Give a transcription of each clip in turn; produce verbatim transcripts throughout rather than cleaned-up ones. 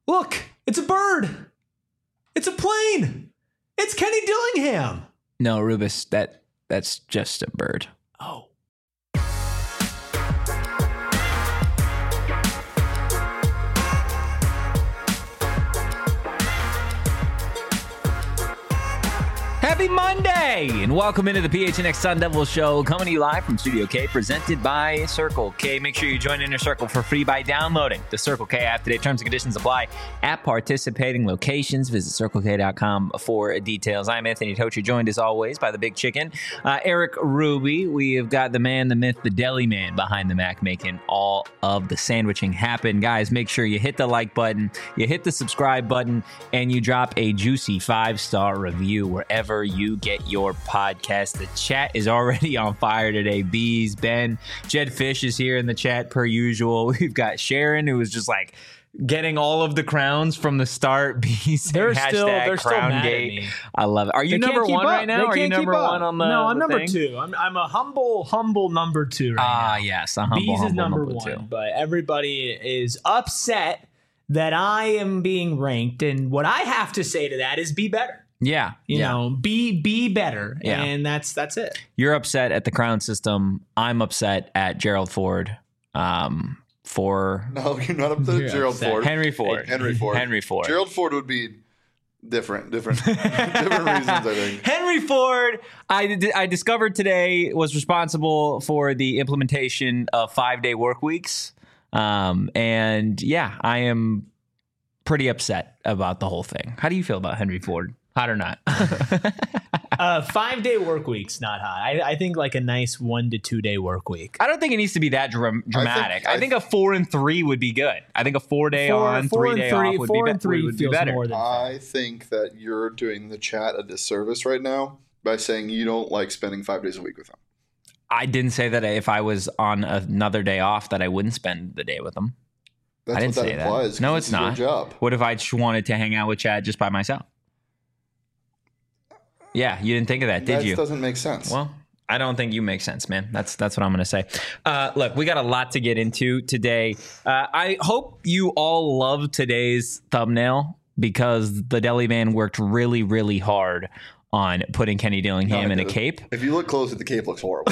Look, it's a bird. It's a plane. It's Kenny Dillingham. No, Rubus, that that's just a bird. Oh. Happy Monday, and welcome into the P H N X Sun Devil Show, coming to you live from Studio K, presented by Circle K. Make sure you join Inner Circle for free by downloading the Circle K app today. Terms and conditions apply at participating locations. Visit circle k dot com for details. I'm Anthony Totri, joined as always by the Big Chicken, uh, Eric Ruby. We have got the man, the myth, the deli man behind the Mac, making all of the sandwiching happen. Guys, make sure you hit the like button, you hit the subscribe button, and you drop a juicy five-star review wherever you get your podcast. The chat is already on fire today. Bees, Ben, Jed Fish is here in the chat per usual. We've got Sharon, who was just like getting all of the crowns from the start. Bees, they're still they're still mad at me. I love it. Are you They number one up. right now? They Are you can't number keep up. one on the No, I'm the number thing? two. I'm I'm a humble, humble number two right Ah, now. yes, a humble, Bees humble is number, number one, two. but everybody is upset that I am being ranked, and what I have to say to that is be better. Yeah, You yeah. know, be be better, Yeah. and that's that's it. You're upset at the crown system. I'm upset at Gerald Ford. Um, for No, you're not up to You're Gerald upset. Ford. Henry Ford. Henry Ford. Henry Ford. Gerald Ford would be different, different, different reasons, I think. Henry Ford, I, I discovered today, was responsible for the implementation of five-day work weeks. Um, and yeah, I am pretty upset about the whole thing. How do you feel about Henry Ford? Hot or not? Uh, five day work week's not hot. I, I think like a nice one to two day work week. I don't think it needs to be that dram- dramatic. I think, I a four and three would be good. I think a four day on, four three and day three, off would four be, and be- three would be feels better. more than I think that you're doing the chat a disservice right now by saying you don't like spending five days a week with them. I didn't say that if I was on another day off that I wouldn't spend the day with them. That's I didn't what that say that. implies. No, 'cause it's this is your not. job. What if I just wanted to hang out with Chad just by myself? Yeah, you didn't think of that, did That you? doesn't make sense. Well, I don't think you make sense, man. That's that's what I'm going to say. Uh, look, we got a lot to get into today. Uh, I hope you all love today's thumbnail because the deli man worked really, really hard on putting Kenny Dillingham No, in a it- cape. If you look close at the cape, looks horrible.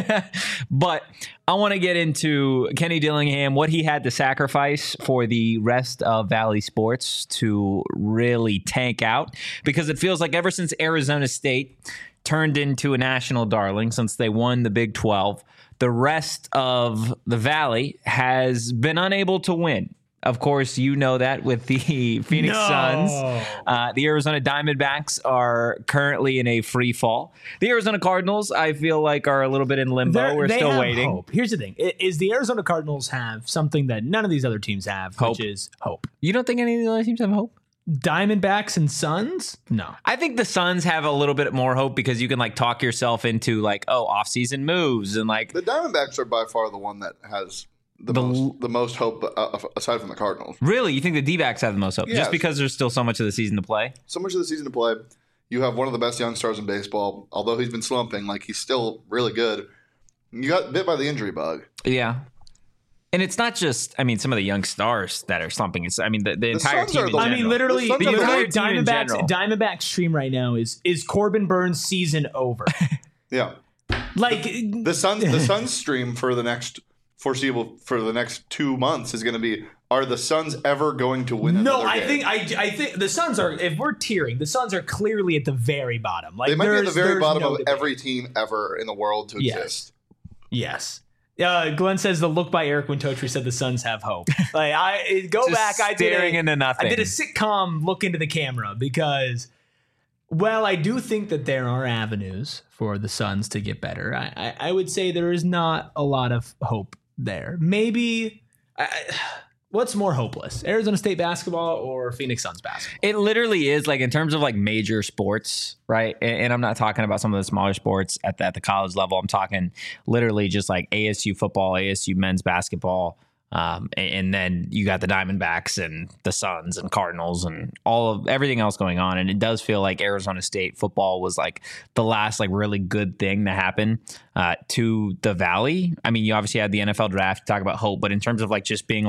But I want to get into Kenny Dillingham, what he had to sacrifice for the rest of Valley Sports to really tank out, because it feels like ever since Arizona State turned into a national darling, since they won the Big twelve, the rest of the Valley has been unable to win. Of course, you know that with the Phoenix No. Suns. Uh, the Arizona Diamondbacks are currently in a free fall. The Arizona Cardinals, I feel like, are a little bit in limbo. They're- We're they still have waiting. Hope. Here's the thing: I- is the Arizona Cardinals have something that none of these other teams have, Hope. which is hope. You don't think any of the other teams have hope? Diamondbacks and Suns? No. I think the Suns have a little bit more hope because you can like talk yourself into like, oh, off-season moves and like The Diamondbacks are by far the one that has the, The- most the most hope uh, aside from the Cardinals. really, you think the D-backs have the most hope Yes. just because there's still so much of the season to play? So much of the season to play. You have one of the best young stars in baseball. Although he's been slumping, like he's still really good. You got bit by the injury bug. Yeah. And it's not just, I mean, some of the young stars that are slumping. It's, I mean, the, the entire Suns team are in the- I general. mean, literally, The Suns the are the entire great team in Diamondbacks general. Diamondbacks stream right now is is Corbin Burns' season over? Yeah. Like The Suns the Suns stream for the next foreseeable for the next two months is going to be: are the Suns ever going to win? no, another I game? think I I think the Suns are. If we're tiering, the Suns are clearly at the very bottom. Like they might be at the there's- very there's bottom no of debate. every team ever in the world to Yes. exist. Yes. Uh, Glenn says the look by Eric when Totri said the Suns have hope. Like I go Just back, I did staring a, into nothing. I did a sitcom look into the camera because, well, I do think that there are avenues for the Suns to get better. I, I, I would say there is not a lot of hope there. Maybe, I, I- what's more hopeless, Arizona State basketball or Phoenix Suns basketball? It literally is like in terms of like major sports, right? And, and I'm not talking about some of the smaller sports at the, at the college level. I'm talking literally just like A S U football, A S U men's basketball. Um, and, and then you got the Diamondbacks and the Suns and Cardinals and all of everything else going on. And it does feel like Arizona State football was like the last like really good thing to happen uh, to the Valley. I mean, you obviously had the N F L draft to talk about hope, but in terms of like just being like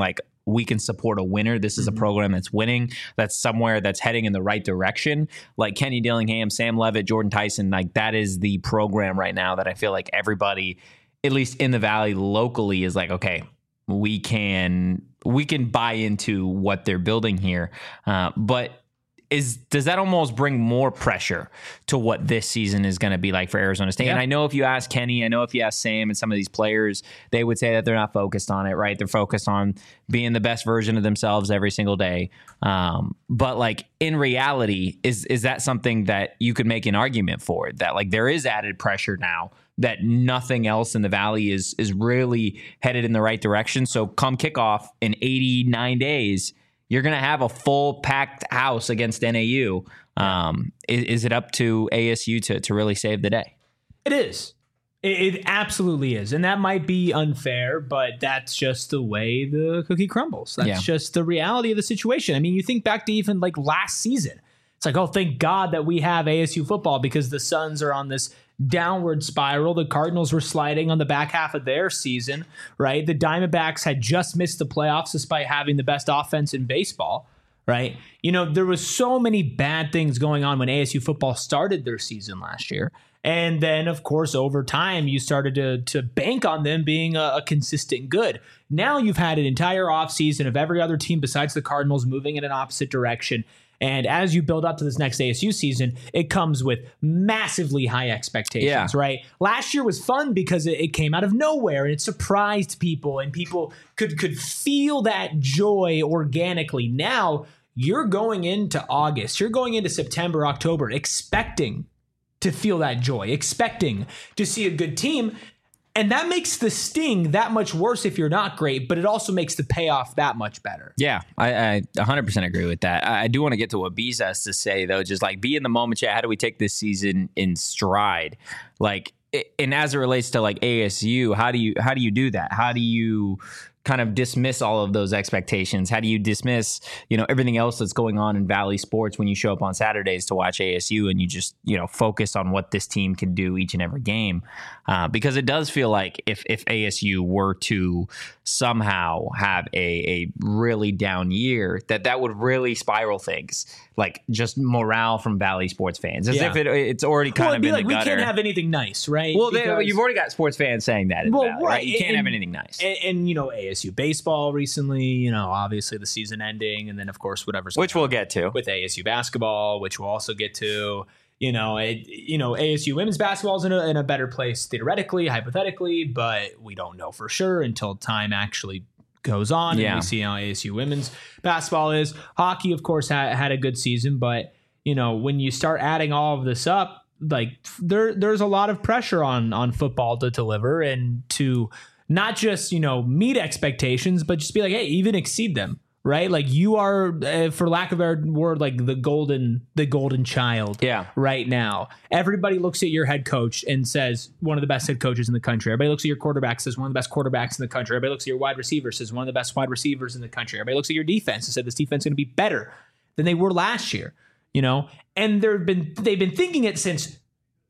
we can support a winner. This is mm-hmm. a program that's winning. That's somewhere that's heading in the right direction. Like Kenny Dillingham, Sam Levitt, Jordan Tyson, like that is the program right now that I feel like everybody, at least in the Valley locally, is like, okay, we can we can buy into what they're building here. Uh, but Is does that almost bring more pressure to what this season is going to be like for Arizona State? Yeah. And I know if you ask Kenny, I know if you ask Sam and some of these players, they would say that they're not focused on it, right? They're focused on being the best version of themselves every single day. Um, but like in reality, is is that something that you could make an argument for? That like there is added pressure now that nothing else in the Valley is is really headed in the right direction. So come kickoff in eighty-nine days, you're going to have a full packed house against N A U. Um, is, is it up to A S U to, to really save the day? It is. It, it absolutely is. And that might be unfair, but that's just the way the cookie crumbles. That's yeah. just the reality of the situation. I mean, you think back to even like last season. It's like, oh, thank God that we have A S U football because the Suns are on this downward spiral. The Cardinals were sliding on the back half of their season, right? The Diamondbacks had just missed the playoffs despite having the best offense in baseball, right? You know, there was so many bad things going on when A S U football started their season last year. And then, of course, over time, you started to, to bank on them being a, a consistent good. Now you've had an entire offseason of every other team besides the Cardinals moving in an opposite direction. And as you build up to this next A S U season, it comes with massively high expectations, yeah. right? Last year was fun because it, it came out of nowhere and it surprised people and people could, could feel that joy organically. Now you're going into August, you're going into September, October, expecting to feel that joy, expecting to see a good team. And that makes the sting that much worse if you're not great, but it also makes the payoff that much better. Yeah, I, I one hundred percent agree with that. I, I do want to get to what Bees has to say, though. Just like be in the moment. Yeah, how do we take this season in stride? Like, and as it relates to like A S U, how do you how do you do that? How do you kind of dismiss all of those expectations? How do you dismiss, you know, everything else that's going on in Valley sports when you show up on Saturdays to watch A S U and you just, you know, focus on what this team can do each and every game? Uh, because it does feel like if, if A S U were to somehow have a, a really down year, that that would really spiral things, like just morale from Valley sports fans, as yeah. if it, it's already kind well, of in like, the we gutter. We can't have anything nice, right? Well, because, they, you've already got sports fans saying that in well, the Valley, right? right? You can't and, have anything nice. And, and, you know, A S U baseball recently, you know, obviously the season ending, and then, of course, whatever's Which we'll get to. With A S U basketball, which we'll also get to. You know, it, you know, A S U women's basketball is in a, in a better place theoretically, hypothetically, but we don't know for sure until time actually goes on yeah. and we see how A S U women's basketball is. Hockey, of course, ha- had a good season, but, you know, when you start adding all of this up, like there there's a lot of pressure on on football to deliver and to not just, you know, meet expectations, but just be like, hey, even exceed them. Right, like you are, uh, for lack of a better word, like the golden, the golden child. Yeah. Right now, everybody looks at your head coach and says one of the best head coaches in the country. Everybody looks at your quarterback, says one of the best quarterbacks in the country. Everybody looks at your wide receiver, says one of the best wide receivers in the country. Everybody looks at your defense and said this defense is going to be better than they were last year. You know, and they've been they've been thinking it since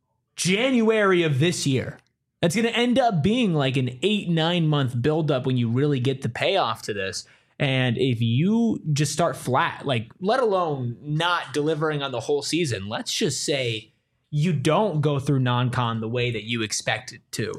January of this year. That's going to end up being like an eight nine month buildup when you really get the payoff to this. And if you just start flat, like let alone not delivering on the whole season, let's just say you don't go through non-con the way that you expected to.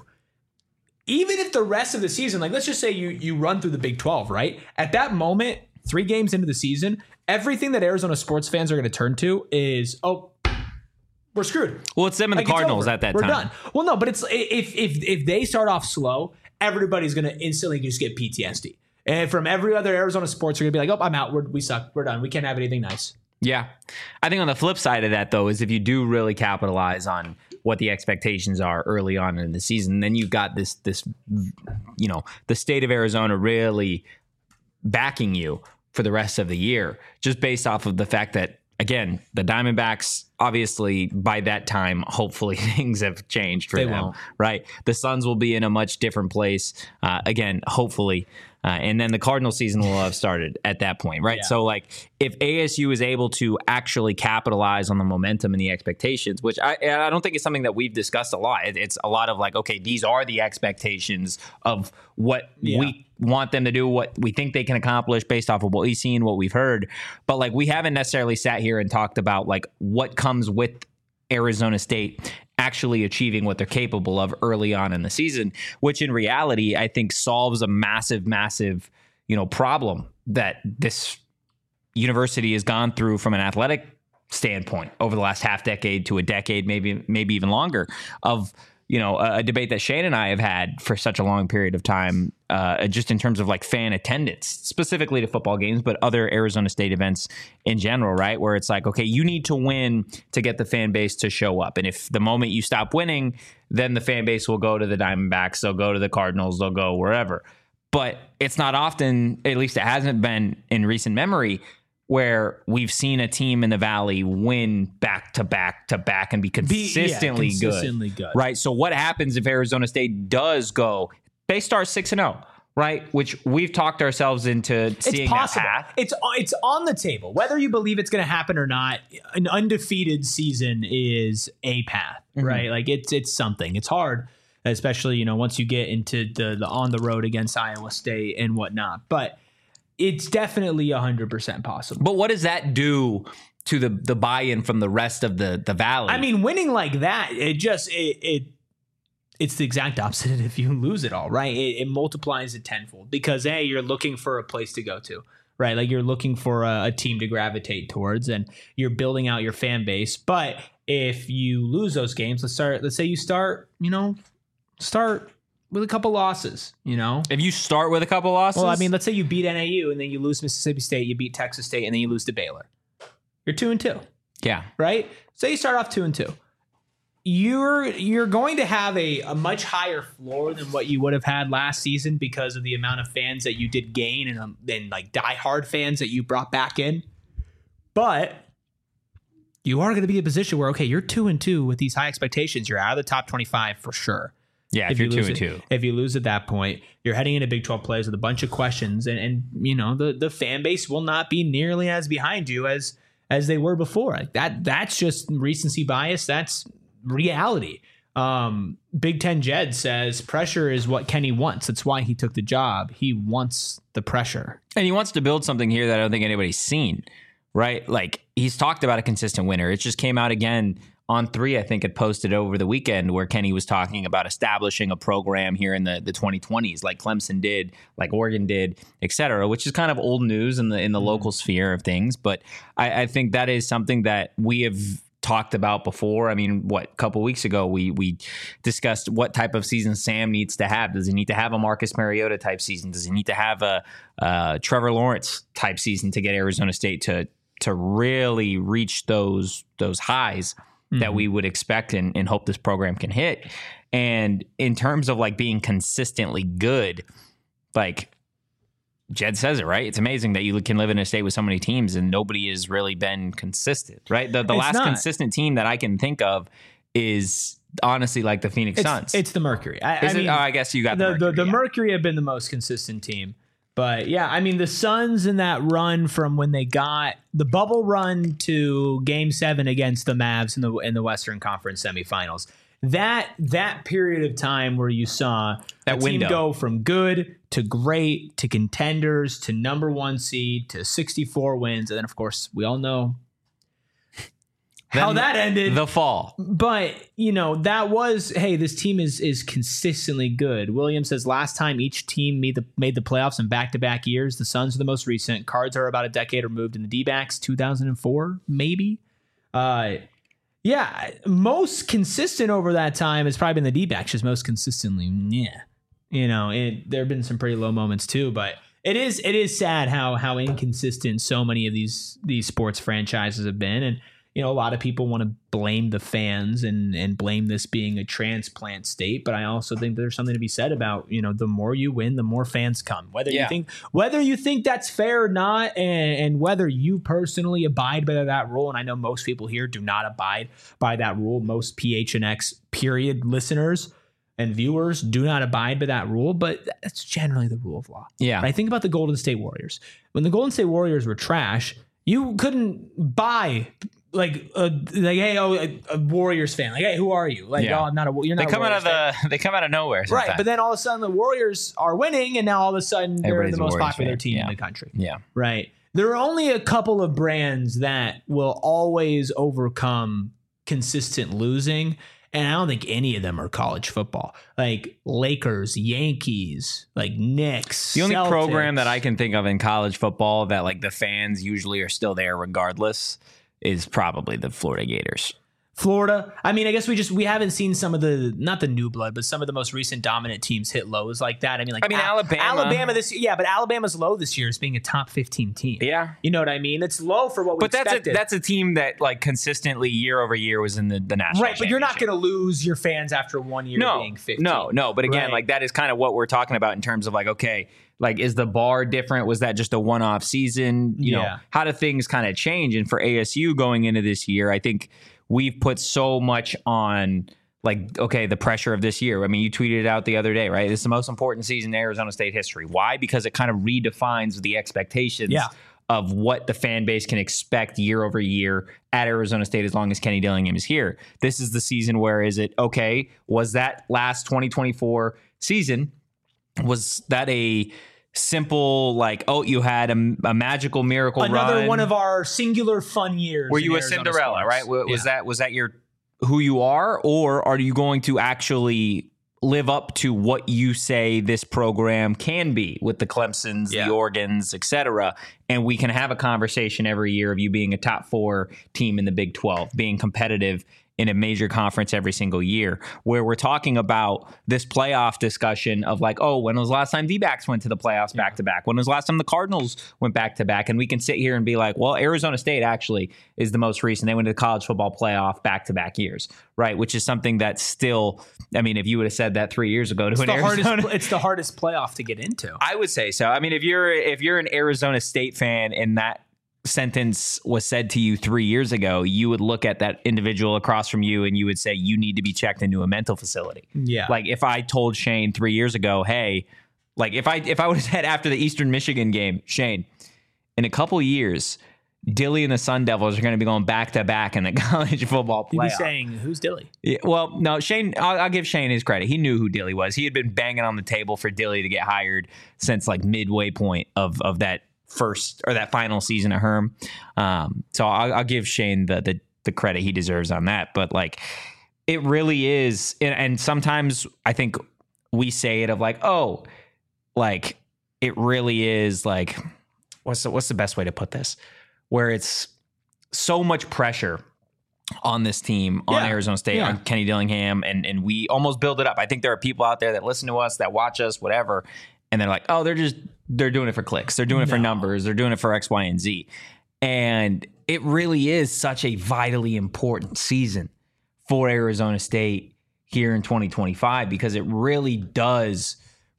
Even if the rest of the season, like let's just say you you run through the Big twelve, right? At that moment, three games into the season, everything that Arizona sports fans are going to turn to is, oh, we're screwed. Well, it's them and the like, Cardinals at that we're time. We're done. Well, no, but it's if if if they start off slow, everybody's going to instantly just get P T S D. And from every other Arizona sports, you're going to be like, oh, I'm out. We're, we suck. We're done. We can't have anything nice. Yeah. I think on the flip side of that, though, is if you do really capitalize on what the expectations are early on in the season, then you've got this, this, you know, the state of Arizona really backing you for the rest of the year, just based off of the fact that, again, the Diamondbacks, obviously, by that time, hopefully things have changed for they them, won't. right? The Suns will be in a much different place, uh, again, hopefully. Uh, and then the Cardinal season will have started at that point, right? Yeah. So, like, if A S U is able to actually capitalize on the momentum and the expectations, which I, I don't think is something that we've discussed a lot. It, it's a lot of like, okay, these are the expectations of what Yeah. we want them to do, what we think they can accomplish based off of what we've seen, what we've heard. But like, we haven't necessarily sat here and talked about like what comes with Arizona State actually achieving what they're capable of early on in the season, which in reality, I think solves a massive, massive, you know, problem that this university has gone through from an athletic standpoint over the last half decade to a decade, maybe, maybe even longer, of, you know, a, a debate that Shane and I have had for such a long period of time, uh, just in terms of like fan attendance, specifically to football games, but other Arizona State events in general, right? Where it's like, okay, you need to win to get the fan base to show up. And if the moment you stop winning, then the fan base will go to the Diamondbacks, they'll go to the Cardinals, they'll go wherever. But it's not often, at least it hasn't been in recent memory, where we've seen a team in the Valley win back to back to back and be consistently, be, yeah, consistently good. good. Right. So what happens if Arizona State does go, they start six and oh, right? Which we've talked ourselves into seeing it's possible. that path. It's it's on the table. Whether you believe it's going to happen or not, an undefeated season is a path, mm-hmm. right? Like it's it's something. It's hard, especially, you know, once you get into the the on the road against Iowa State and whatnot. But it's definitely one hundred percent possible. But what does that do to the the buy-in from the rest of the the Valley? I mean, winning like that, it just it, it it's the exact opposite if you lose it all, right? It, it multiplies it tenfold because hey, you're looking for a place to go to, right? Like you're looking for a, a team to gravitate towards, and you're building out your fan base. But if you lose those games, let's start. Let's say you start, you know, start. with a couple losses, you know? If you start with a couple losses? Well, I mean, let's say you beat N A U and then you lose Mississippi State, you beat Texas State, and then you lose to Baylor. You're two and two. Yeah. Right? Say you start off two and two. You're you're going to have a, a much higher floor than what you would have had last season because of the amount of fans that you did gain and, um, and like diehard fans that you brought back in. But you are going to be in a position where, okay, you're two and two with these high expectations. You're out of the top twenty-five for sure. Yeah, if, if you're you two and two. If you lose at that point, you're heading into Big twelve plays with a bunch of questions, and, and you know the, the fan base will not be nearly as behind you as as they were before. Like that that's just recency bias. That's reality. Um, Big Ten Jed says pressure is what Kenny wants. That's why he took the job. He wants the pressure, and he wants to build something here that I don't think anybody's seen. Right? Like he's talked about a consistent winner. It just came out again. On three, I think it posted over the weekend where Kenny was talking about establishing a program here in the, the twenty twenties, like Clemson did, like Oregon did, et cetera, which is kind of old news in the in the mm-hmm. local sphere of things. But I, I think that is something that we have talked about before. I mean, what, a couple weeks ago, we we discussed what type of season Sam needs to have. Does he need to have a Marcus Mariota type season? Does he need to have a uh, Trevor Lawrence type season to get Arizona State to to really reach those those highs that mm-hmm. we would expect and, and hope this program can hit? And in terms of like being consistently good, like Jed says it, right? It's amazing that you can live in a state with so many teams and nobody has really been consistent, right? The, the last not. consistent team that I can think of is honestly like the Phoenix it's, Suns. It's the Mercury. I, is I it? mean, Oh, I guess you got the the Mercury. The, the yeah. Mercury have been the most consistent team. But yeah, I mean, the Suns in that run from when they got the bubble run to Game Seven against the Mavs in the in the Western Conference semifinals, that that period of time where you saw that a team window. go from good to great to contenders to number one seed to sixty-four wins, and then of course we all know how that ended. The fall. But, you know, that was, hey, this team is is consistently good. Williams says last time each team made the made the playoffs in back-to-back years. The Suns are the most recent. Cards are about a decade removed in the D-backs, two thousand four, maybe. Uh, yeah, most consistent over that time has probably been the D-backs, just most consistently, yeah. You know, it, there have been some pretty low moments too, but it is it is sad how how inconsistent so many of these these sports franchises have been. And you know, a lot of people want to blame the fans and, and blame this being a transplant state. But I also think there's something to be said about, you know, the more you win, the more fans come. Whether yeah. you think whether you think that's fair or not, and, and whether you personally abide by that rule. And I know most people here do not abide by that rule. Most P H N X period listeners. and viewers do not abide by that rule, but that's generally the rule of law. Yeah. Right? Think about the Golden State Warriors. When the Golden State Warriors were trash, you couldn't buy like a, like hey oh a, a Warriors fan, like hey, who are you? Like Yeah. oh I'm not a you're not They a come out Warriors of fan. the they come out of nowhere sometimes. Right, but then all of a sudden the Warriors are winning, and now all of a sudden they're Everybody's the a most Warriors popular fan. team Yeah. in the country. Yeah. Right. There are only a couple of brands that will always overcome consistent losing, and I don't think any of them are college football. Like Lakers, Yankees, like Knicks. The only Celtics. program that I can think of in college football that like the fans usually are still there regardless is probably the Florida Gators. Florida. I mean, I guess we just we haven't seen some of the not the new blood, but some of the most recent dominant teams hit lows like that. I mean, like I mean, Al- Alabama. Alabama this year, yeah, but Alabama's low this year as being a top fifteen team. Yeah. You know what I mean? It's low for what we But that's a, expected. that's a team that like consistently year over year was in the, the national right, but you're not championship. going to lose your fans after one year no, being fifteen. No, no. But again, Right. like that is kind of what we're talking about in terms of like, okay, like is the bar different? Was that just a one-off season? You Yeah. know, how do things kind of change? And for A S U going into this year, I think we've put so much on like, okay, the pressure of this year. I mean, you tweeted it out the other day, right? This is the most important season in Arizona State history. Why? Because it kind of redefines the expectations Yeah. of what the fan base can expect year over year at Arizona State as long as Kenny Dillingham is here. This is the season where is it, okay, was that last twenty twenty-four season, was that a simple like, oh, you had a, a magical miracle Another run? one of our singular fun years. Were in you a Arizona Cinderella, sports. right? W- Was Yeah. that was that your who you are, or are you going to actually live up to what you say this program can be with the Clemsons, Yeah. the Oregons, et cetera? And we can have a conversation every year of you being a top four team in the Big twelve, being competitive in a major conference every single year, where we're talking about this playoff discussion of like, oh, when was the last time D-backs went to the playoffs back to back? When was the last time the Cardinals went back to back? And we can sit here and be like, well, Arizona State actually is the most recent. They went to the college football playoff back to back years, right? Which is something that's still, I mean, if you would have said that three years ago to It's an the, Arizona, hardest, it's the hardest playoff to get into. I would say so. I mean, if you're if you're an Arizona State fan and that sentence was said to you three years ago, you would look at that individual across from you and you would say you need to be checked into a mental facility. Yeah. Like if I told Shane three years ago, hey, like if I if I would have said after the Eastern Michigan game, Shane, in a couple years, Dilly and the Sun Devils are going to be going back to back in the college football You'd be playoff. saying, who's Dilly? Yeah, well, no, Shane, I'll, I'll give Shane his credit. He knew who Dilly was. He had been banging on the table for Dilly to get hired since like midway point of of that first or that final season of Herm. Um, so I'll, I'll give Shane the, the the credit he deserves on that. But like, it really is, and, and sometimes I think we say it of like, oh, like it really is like, what's the, what's the best way to put this? Where it's so much pressure on this team, on Yeah. Arizona State, Yeah. on Kenny Dillingham, and and we almost build it up. I think there are people out there that listen to us, that watch us, whatever, and they're like, oh, they're just they're doing it for clicks, they're doing it for No. numbers, they're doing it for X, Y, and Z. And it really is such a vitally important season for Arizona State here in twenty twenty-five because it really does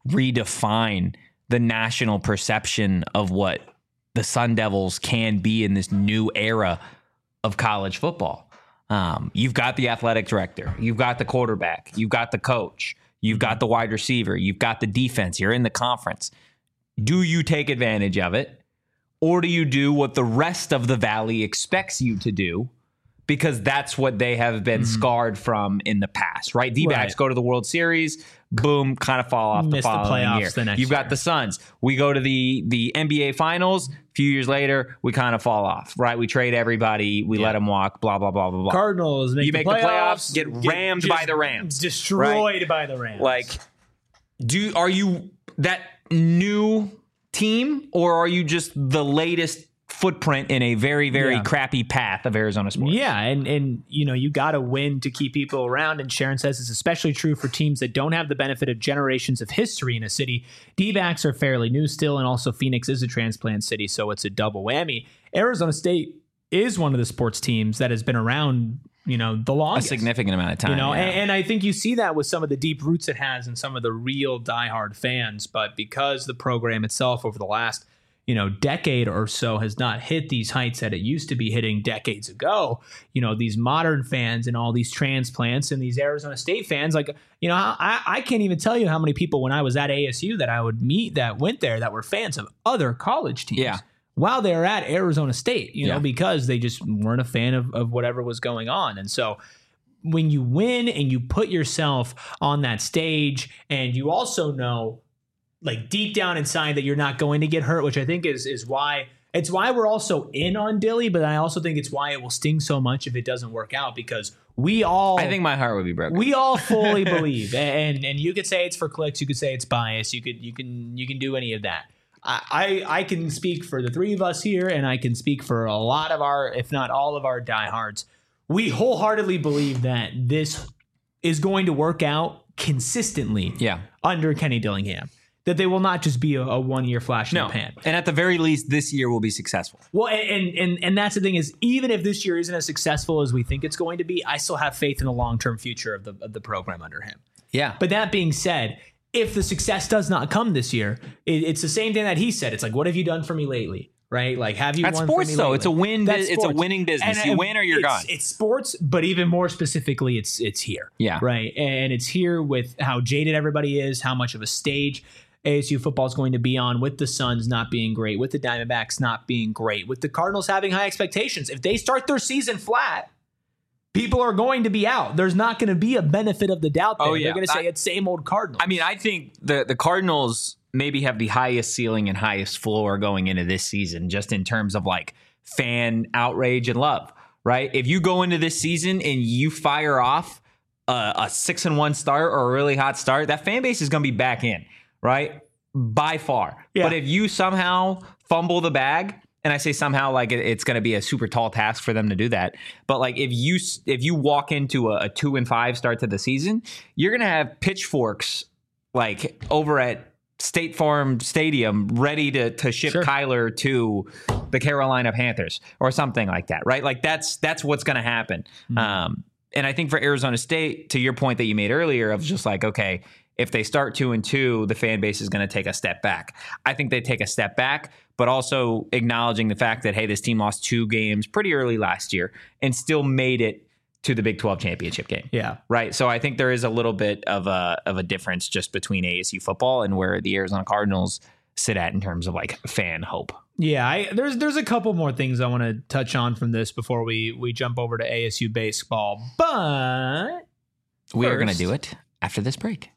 redefine the national perception of what the Sun Devils can be in this new era of college football. Um, you've got the athletic director, you've got the quarterback, you've got the coach, you've got the wide receiver, you've got the defense, you're in the conference. Do you take advantage of it, or do you do what the rest of the Valley expects you to do? Because that's what they have been Mm-hmm. scarred from in the past, right? D-backs Right. go to the World Series, boom, kind of fall off the Miss the following playoffs year. the next You've got year. the Suns. We go to the the N B A Finals. A few years later, we kind of fall off, right? We trade everybody. We let them walk, blah, blah, blah, blah, blah. Cardinals make You the make the playoffs, playoffs, get rammed by just the Rams, destroyed by the Rams. Like, do are you that new team, or are you just the latest footprint in a very, very Yeah. crappy path of Arizona sports? Yeah, and and you know you got to win to keep people around. And Sharon says it's especially true for teams that don't have the benefit of generations of history in a city. D-backs are fairly new still, and also Phoenix is a transplant city, so it's a double whammy. Arizona State is one of the sports teams that has been around, you know, the A longest. significant amount of time. You know, yeah. and, and I think you see that with some of the deep roots it has and some of the real diehard fans. But because the program itself over the last you know, decade or so has not hit these heights that it used to be hitting decades ago. You know, these modern fans and all these transplants and these Arizona State fans, like, you know, I, I can't even tell you how many people when I was at A S U that I would meet that went there that were fans of other college teams. Yeah. While they were at Arizona State, you know, Yeah. because they just weren't a fan of, of whatever was going on. And so when you win and you put yourself on that stage and you also know, like deep down inside, that you're not going to get hurt, which I think is is why it's why we're also in on Dilly, but I also think it's why it will sting so much if it doesn't work out, because we all I think my heart would be broken. we all fully believe, and and you could say it's for clicks, you could say it's bias, you could you can you can do any of that. I, I I can speak for the three of us here, and I can speak for a lot of our, if not all of our diehards. We wholeheartedly believe that this is going to work out consistently Yeah. under Kenny Dillingham. That they will not just be a, a one-year flash in No. the pan. And at the very least, this year will be successful. Well, and, and and that's the thing is, even if this year isn't as successful as we think it's going to be, I still have faith in the long-term future of the of the program under him. Yeah. But that being said, if the success does not come this year, it, it's the same thing that he said. It's like, what have you done for me lately? Right? Like, have you That's won sports, for me though. lately? It's a win. That's It's a sports. winning business. And, You uh, win or you're it's, gone. It's sports, but even more specifically, it's it's here. Yeah. Right? And it's here with how jaded everybody is, how much of a stage A S U football is going to be on, with the Suns not being great, with the Diamondbacks not being great, with the Cardinals having high expectations. If they start their season flat, people are going to be out. There's not going to be a benefit of the doubt there. Oh, yeah. They're going to say I- it's same old Cardinals. I mean, I think the the Cardinals maybe have the highest ceiling and highest floor going into this season, just in terms of like fan outrage and love, right? If you go into this season and you fire off a, a six and one start or a really hot start, that fan base is going to be back in, right? By far. Yeah. But if you somehow fumble the bag, and I say somehow like it, it's going to be a super tall task for them to do that. But like if you if you walk into a, a two and five start to the season, you're going to have pitchforks like over at State Farm Stadium ready to to ship Sure. Kyler to the Carolina Panthers or something like that, right? Like that's that's what's going to happen. Mm-hmm. Um, and I think for Arizona State, to your point that you made earlier of just like, okay, if they start two and two, the fan base is going to take a step back. I think they take a step back, but also acknowledging the fact that, hey, this team lost two games pretty early last year and still made it to the Big twelve championship game. yeah. Right. So I think there is a little bit of a of a difference just between A S U football and where the Arizona Cardinals sit at in terms of like fan hope. Yeah, I, there's there's a couple more things I want to touch on from this before we we jump over to A S U baseball. But We are going to first- do it after this break.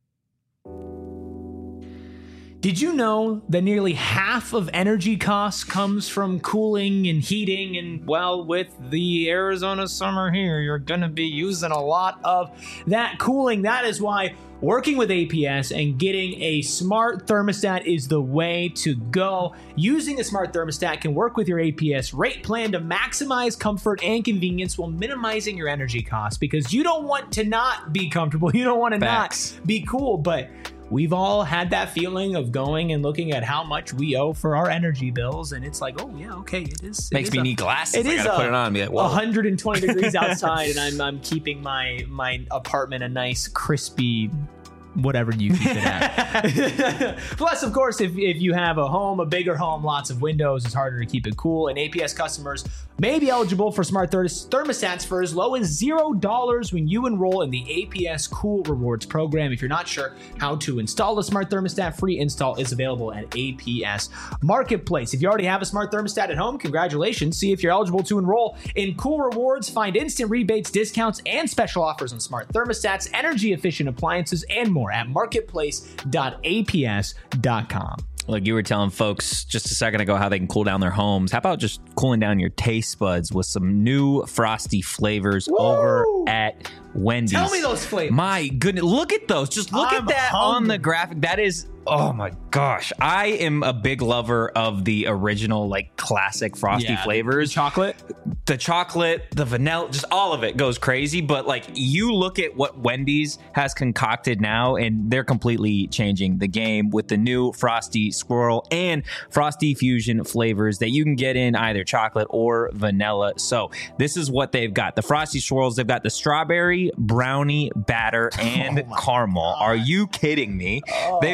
Did you know that nearly half of energy costs comes from cooling and heating? And well, with the Arizona summer here, you're going to be using a lot of that cooling. That is why working with A P S and getting a smart thermostat is the way to go. Using a smart thermostat can work with your A P S rate plan to maximize comfort and convenience while minimizing your energy costs, because you don't want to not be comfortable. You don't want to Facts. not be cool, but we've all had that feeling of going and looking at how much we owe for our energy bills, and it's like, oh yeah, okay, it is. it Makes is me a- need glasses. It I is gotta a- put it on and be like, whoa. one hundred twenty degrees outside, and I'm I'm keeping my my apartment a nice crispy, whatever you keep it at. Plus, of course, if if you have a home, a bigger home, lots of windows, it's harder to keep it cool. And A P S customers may be eligible for smart ther- thermostats for as low as zero dollars when you enroll in the A P S Cool Rewards program. If you're not sure how to install a smart thermostat, free install is available at A P S Marketplace. If you already have a smart thermostat at home, congratulations. See if you're eligible to enroll in Cool Rewards. Find instant rebates, discounts, and special offers on smart thermostats, energy efficient appliances, and more at marketplace dot A P S dot com. Like you were telling folks just a second ago how they can cool down their homes. How about just cooling down your taste buds with some new frosty flavors Woo! over at Wendy's? Tell me those flavors. My goodness, look at those. Just look I'm at that on hungry. the graphic. That is, oh my gosh. I am a big lover of the original, like classic frosty Yeah, flavors. Chocolate. The chocolate, the vanilla, just all of it goes crazy. But like you look at what Wendy's has concocted now, and they're completely changing the game with the new Frosty Swirl and Frosty Fusion flavors that you can get in either chocolate or vanilla. So this is what they've got. The Frosty Swirls, they've got the strawberry, brownie, batter, and Oh my caramel. Are you kidding me? Oh. They've also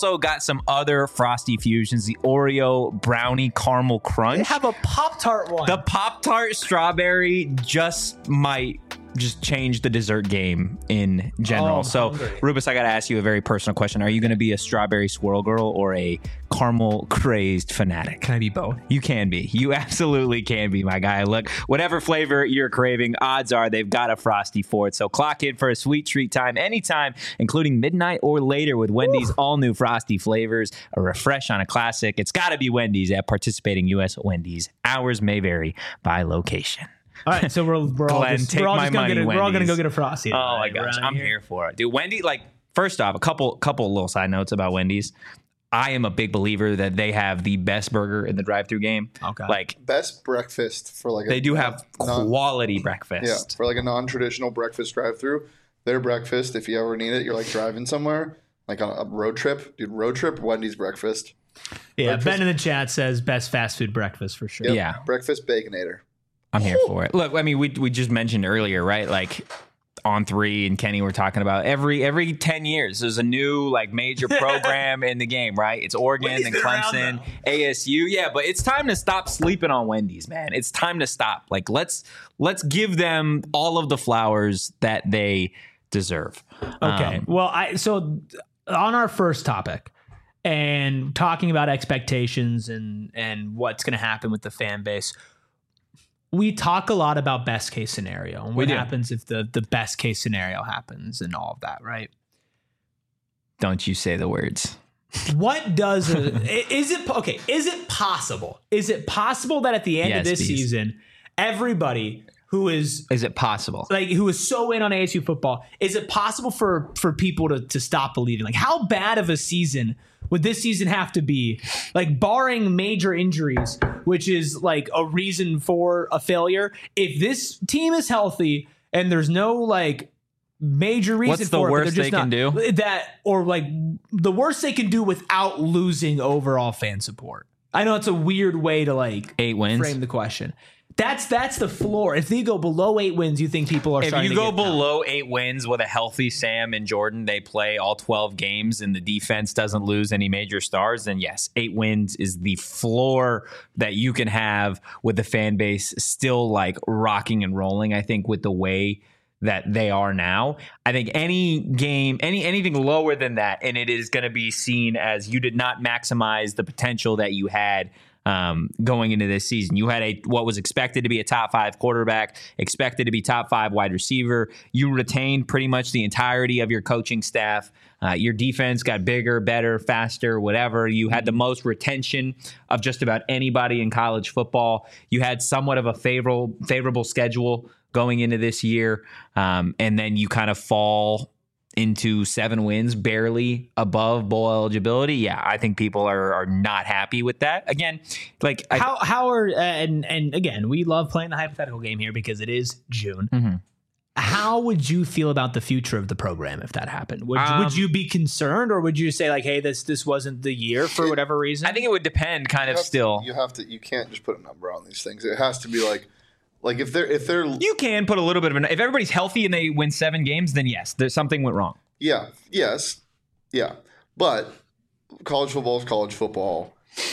also got some other Frosty fusions, the Oreo brownie caramel crunch. They have a Pop-Tart one. The Pop-Tart strawberry just might just change the dessert game in general. Oh, so, hungry. Rubus, I got to ask you a very personal question. Are you going to be a strawberry swirl girl or a caramel crazed fanatic? Can I be both? You can be. You absolutely can be, my guy. Look, whatever flavor you're craving, odds are they've got a Frosty for it. So clock in for a sweet treat time anytime, including midnight or later with Wendy's all-new Frosty flavors. A refresh on a classic. It's got to be Wendy's at participating U S Wendy's. Hours may vary by location. All right, so we're, we're all Glenn, just, take we're all my just gonna money, get a, we're all gonna Wendy's. go get a Frosty. Oh my tonight gosh, around I'm here. here for it, dude. Wendy, like, first off, a couple couple little side notes about Wendy's. I am a big believer that they have the best burger in the drive-through game. Okay. Like, Best breakfast for like a they do have non- quality yeah, breakfast. for like a non-traditional breakfast drive-through. Their breakfast, if you ever need it, you're like driving somewhere, like on a road trip, dude. Road trip, Wendy's breakfast. Yeah, breakfast. Ben in the chat says best fast food breakfast for sure. Yep. Yeah. breakfast baconator. I'm here for it. Look, I mean, we we just mentioned earlier, right? Like on three and Kenny were talking about every every ten years there's a new like major program in the game, right? It's Oregon Wendy's and been around, Clemson, though. A S U. Yeah, but it's time to stop sleeping on Wendy's, man. It's time to stop. Like let's let's give them all of the flowers that they deserve. Okay. Um, well, I so on our first topic and talking about expectations and and what's going to happen with the fan base. We talk a lot about best case scenario and what We do. happens if the the best case scenario happens and all of that, right? don't you say the words. What does a, is it okay? Is it possible? Is it possible that at the end Yes, of this Bees. season, everybody who is Is it possible? like who is so in on A S U football, is it possible for for people to to stop believing? Like, how bad of a season would this season have to be? Like, barring major injuries, which is like a reason for a failure. If this team is healthy and there's no like major reason What's the for it, but worst they're just they can not- do? that, or like the worst they can do without losing overall fan support. I know it's a weird way to like Eight wins. frame the question. That's that's the floor. If they go below eight wins, you think people are If starting you to go get below eight wins with a healthy Sam and Jordan, they play all twelve games and the defense doesn't lose any major stars, then yes, eight wins is the floor that you can have with the fan base still like rocking and rolling. I think with the way that they are now, I think any game, any anything lower than that, and it is going to be seen as you did not maximize the potential that you had Um, going into this season. You had a what was expected to be a top five quarterback, expected to be top five wide receiver. You retained pretty much the entirety of your coaching staff. Uh, your defense got bigger, better, faster, whatever. You had the most retention of just about anybody in college football. You had somewhat of a favorable favorable schedule going into this year, um, and then you kind of fall into seven wins, barely above bowl eligibility. Yeah, I think people are are not happy with that. Again, like I, how how are uh, and and again, we love playing the hypothetical game here because it is June. Mhm. How would you feel about the future of the program if that happened? Would Um, would you be concerned, or would you say like, hey, this this wasn't the year for whatever reason? I think it would depend, kind You of have to- still. you have to. You can't just put a number on these things. It has to be like, like if they're if they're You can put a little bit of an. If everybody's healthy and they win seven games, then yes, there's something went wrong. yeah, yes, yeah. But college football is college football.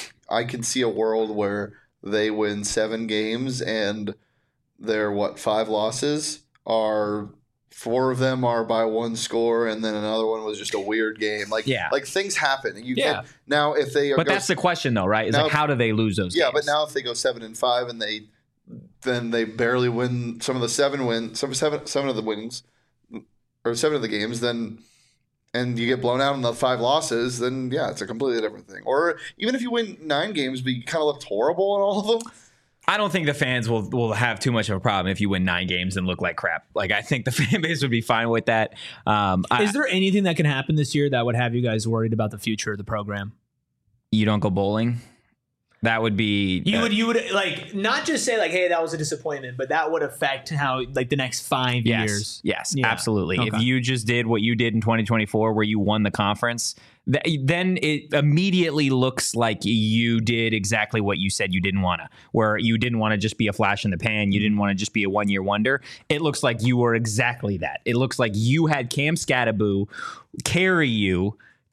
I can see a world where they win seven games and their what five losses are four of them are by one score, and then another one was just a weird game. Like Yeah. like things happen. You Yeah. can't now if they But go, that's the question, though, right? Is Now- like, how do they lose those yeah. games? But now if they go seven and five and they then they barely win some of the seven win some seven seven of the wins or seven of the games, then and you get blown out in the five losses, then yeah, it's a completely different thing. Or even if you win nine games but you kind of looked horrible in all of them. I don't think the fans will will have too much of a problem if you win nine games and look like crap. Like, I think the fan base would be fine with that. Um, I, is there anything that can happen this year that would have you guys worried about the future of the program? you don't go bowling. That would be You uh, would you would like not just say like, hey, that was a disappointment, but that would affect how like the next five Yes, years. yes, Yeah. absolutely. If Okay. you just did what you did in twenty twenty-four, where you won the conference, th- then it immediately looks like you did exactly what you said you didn't want to. Where you didn't want to just be a flash in the pan, you didn't want to just be a one-year wonder. It looks like you were exactly that. It looks like you had Cam Scattaboo carry you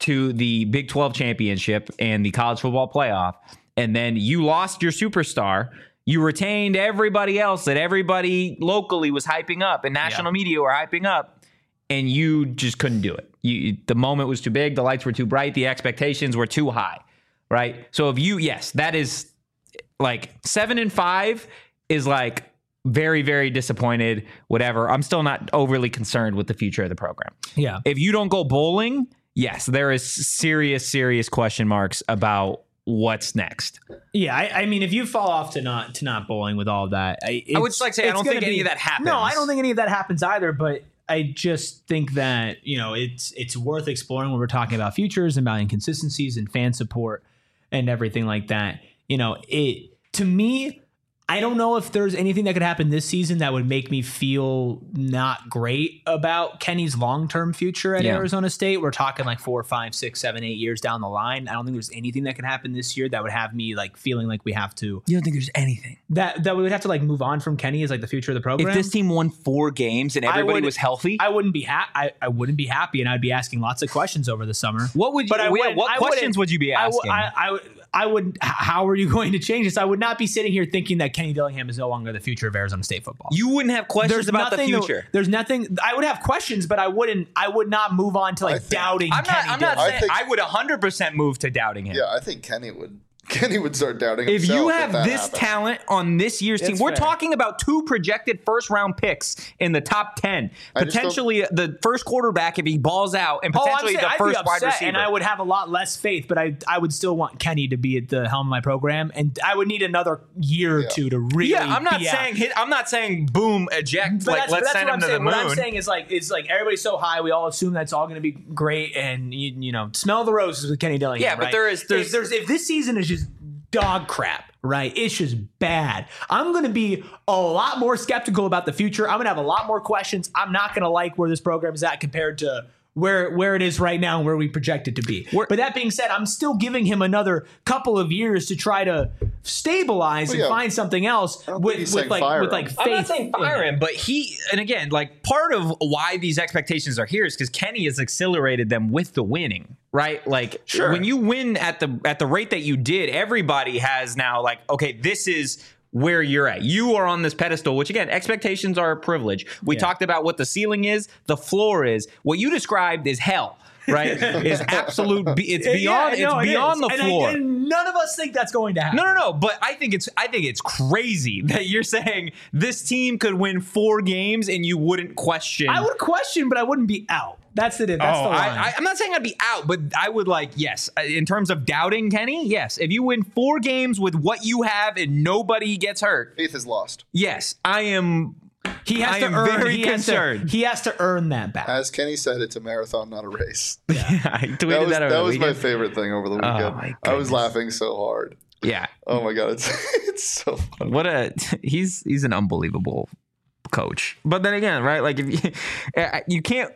to the Big twelve championship and the college football playoff, and then you lost your superstar. You retained everybody else that everybody locally was hyping up and national yeah. media were hyping up, and you just couldn't do it. You, the moment was too big. The lights were too bright. The expectations were too high, right? So if you, yes, that is like seven and five is like very, very disappointed, whatever. I'm still not overly concerned with the future of the program. Yeah. If you don't go bowling, yes, there is serious, serious question marks about what's next. Yeah, I, I mean, if you fall off to not to not bowling with all of that, I, I would just like to say I don't think be, any of that happens. No, I don't think any of that happens either. But I just think that, you know, it's it's worth exploring when we're talking about futures and about inconsistencies and fan support and everything like that. You know, it to me, I don't know if there's anything that could happen this season that would make me feel not great about Kenny's long-term future at yeah. Arizona State. We're talking like four, five, six, seven, eight years down the line. I don't think there's anything that could happen this year that would have me like feeling like we have to. You don't think there's anything that that we would have to like move on from Kenny as like the future of the program? If this team won four games and everybody would, was healthy, I wouldn't be ha- I, I wouldn't be happy, and I'd be asking lots of questions over the summer. What would you? But I what what questions would you be asking? I, I, I, I would. How are you going to change this? I would not be sitting here thinking that Kenny Dillingham is no longer the future of Arizona State football. You wouldn't have questions there's about the future. That, there's nothing. I would have questions, but I wouldn't. I would not move on to like think, doubting. I'm Kenny not. I'm not Dillingham. saying I, think, I would one hundred percent move to doubting him. Yeah, I think Kenny would. Kenny would start doubting if himself. You have if this happens. talent on this year's it's team. We're fair. talking about two projected first round picks in the top ten. I Potentially the first quarterback if he balls out, and potentially oh, the I'd first be upset, wide receiver. And I would have a lot less faith, but I I would still want Kenny to be at the helm of my program, and I would need another year or yeah. two to really. Yeah, I'm not be saying out. hit, I'm not saying boom eject. But like that's, let's that's send what him I'm to saying. the moon. What I'm saying is like is like everybody's so high, we all assume that's all going to be great, and you, you know, smell the roses with Kenny Dillingham. Yeah, but right? there is there's, if there's if this season is just dog crap, right? It's just bad. I'm going to be a lot more skeptical about the future. I'm going to have a lot more questions. I'm not going to like where this program is at compared to where where it is right now and where we project it to be. We're, but that being said, I'm still giving him another couple of years to try to stabilize well, and yeah. find something else with, with like with like faith. I'm not saying fire him, but he and again, like part of why these expectations are here is because Kenny has accelerated them with the winning, right? Like sure. when you win at the at the rate that you did, everybody has now like, okay, this is where you're at. You are on this pedestal, which again, expectations are a privilege. We yeah. talked about what the ceiling is, the floor is. What you described is hell, right? Is absolute. It's beyond. Yeah, no, it's beyond it the and floor. I, and none of us think that's going to happen. No, no, no. But I think it's. I think it's crazy that you're saying this team could win four games and you wouldn't question. I would question, but I wouldn't be out. That's the. That's oh, the line. I, I, I'm not saying I'd be out, but I would like yes. In terms of doubting Kenny, yes. If you win four games with what you have and nobody gets hurt, faith is lost. Yes, I am. He has I to am earn. very He has concerned. to, he has to earn that back. As Kenny said, it's a marathon, not a race. Yeah, I tweeted that was, that. Over that the was my weekend. favorite thing over the weekend. Oh, my I was goodness. laughing so hard. Yeah. Oh my god, it's it's so funny. What a he's he's an unbelievable coach. But then again, right? Like if you you can't.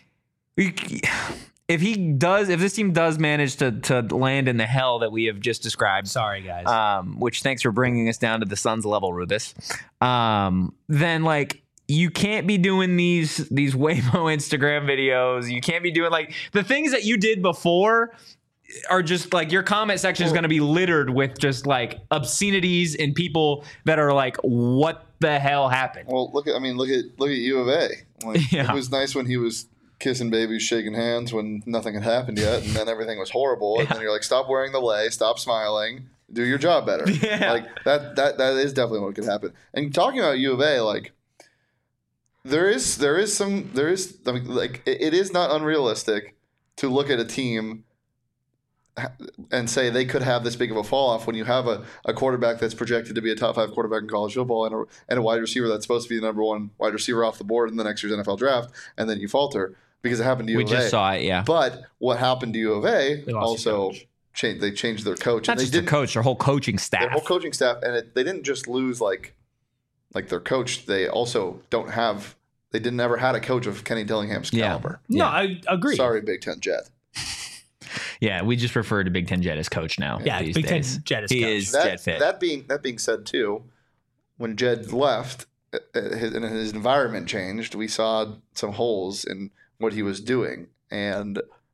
If he does, if this team does manage to to land in the hell that we have just described, Sorry, guys. um, which thanks for bringing us down to the Suns level, Rubis, um, then like you can't be doing these these Waymo Instagram videos. You can't be doing like the things that you did before are just like your comment section is going to be littered with just like obscenities and people that are like, what the hell happened? Well, look at I mean, look at look at U of A. Like, Yeah. It was nice when he was kissing babies, shaking hands when nothing had happened yet, and then everything was horrible. And Yeah. then you're like, stop wearing the lei, stop smiling, do your job better. Yeah. Like that that that is definitely what could happen. And talking about U of A, like there is there is some there is I mean, like it, it is not unrealistic to look at a team and say they could have this big of a fall off when you have a, a quarterback that's projected to be a top five quarterback in college football and a, and a wide receiver that's supposed to be the number one wide receiver off the board in the next year's N F L draft, and then you falter because it happened to U We of A. just saw it, yeah. But what happened to U of A They lost their also coach. changed. They changed their coach. Not and they just their didn't- coach, their whole coaching staff. Their whole coaching staff, and it, they didn't just lose like like their coach. They also don't have. They didn't ever had a coach of Kenny Dillingham's Yeah. caliber. no, yeah. I agree. Sorry, Big Ten Jet. Yeah, we just refer to Big Ten Jet as coach now. Yeah, these Big Ten days. Jet is he coach. is That, Jet fit. that being that being said, too, when Jed left uh, his, and his environment changed, we saw some holes in what he was doing, and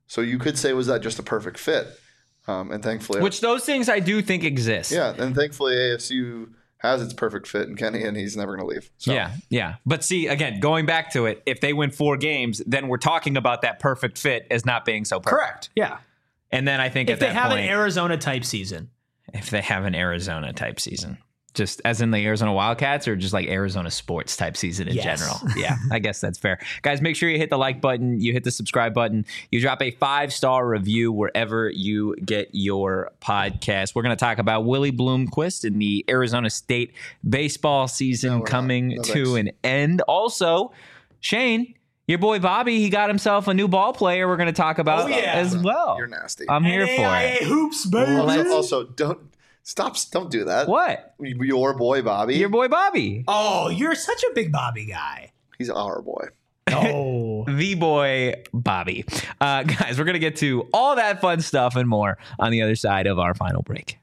So you could say, was that just a perfect fit? Um, and thankfully, Which those things I do think exist. yeah, and thankfully A S U has its perfect fit in Kenny, and he's never going to leave. So. Yeah, yeah. But see, again, going back to it, if they win four games, then we're talking about that perfect fit as not being so perfect. Correct. Yeah. And then I think If at they that have point, an Arizona type season. if they have an Arizona type season, just as in the Arizona Wildcats or just like Arizona sports type season in Yes. general. Yeah, I guess that's fair. Guys, make sure you hit the like button, you hit the subscribe button, you drop a five-star review wherever you get your podcast. We're going to talk about Willie Bloomquist and the Arizona State baseball season No, we're coming not. No, to thanks. an end. Also, Shane, your boy Bobby, he got himself a new ball player we're going to talk about Oh, yeah. as well. You're nasty. I'm here N A for I it. A hoops, baby. also, also, don't stop. Don't do that. What? Your boy Bobby. Your boy Bobby. Oh, you're such a big Bobby guy. He's our boy. Oh. The boy Bobby. Uh, guys, we're going to get to all that fun stuff and more on the other side of our final break.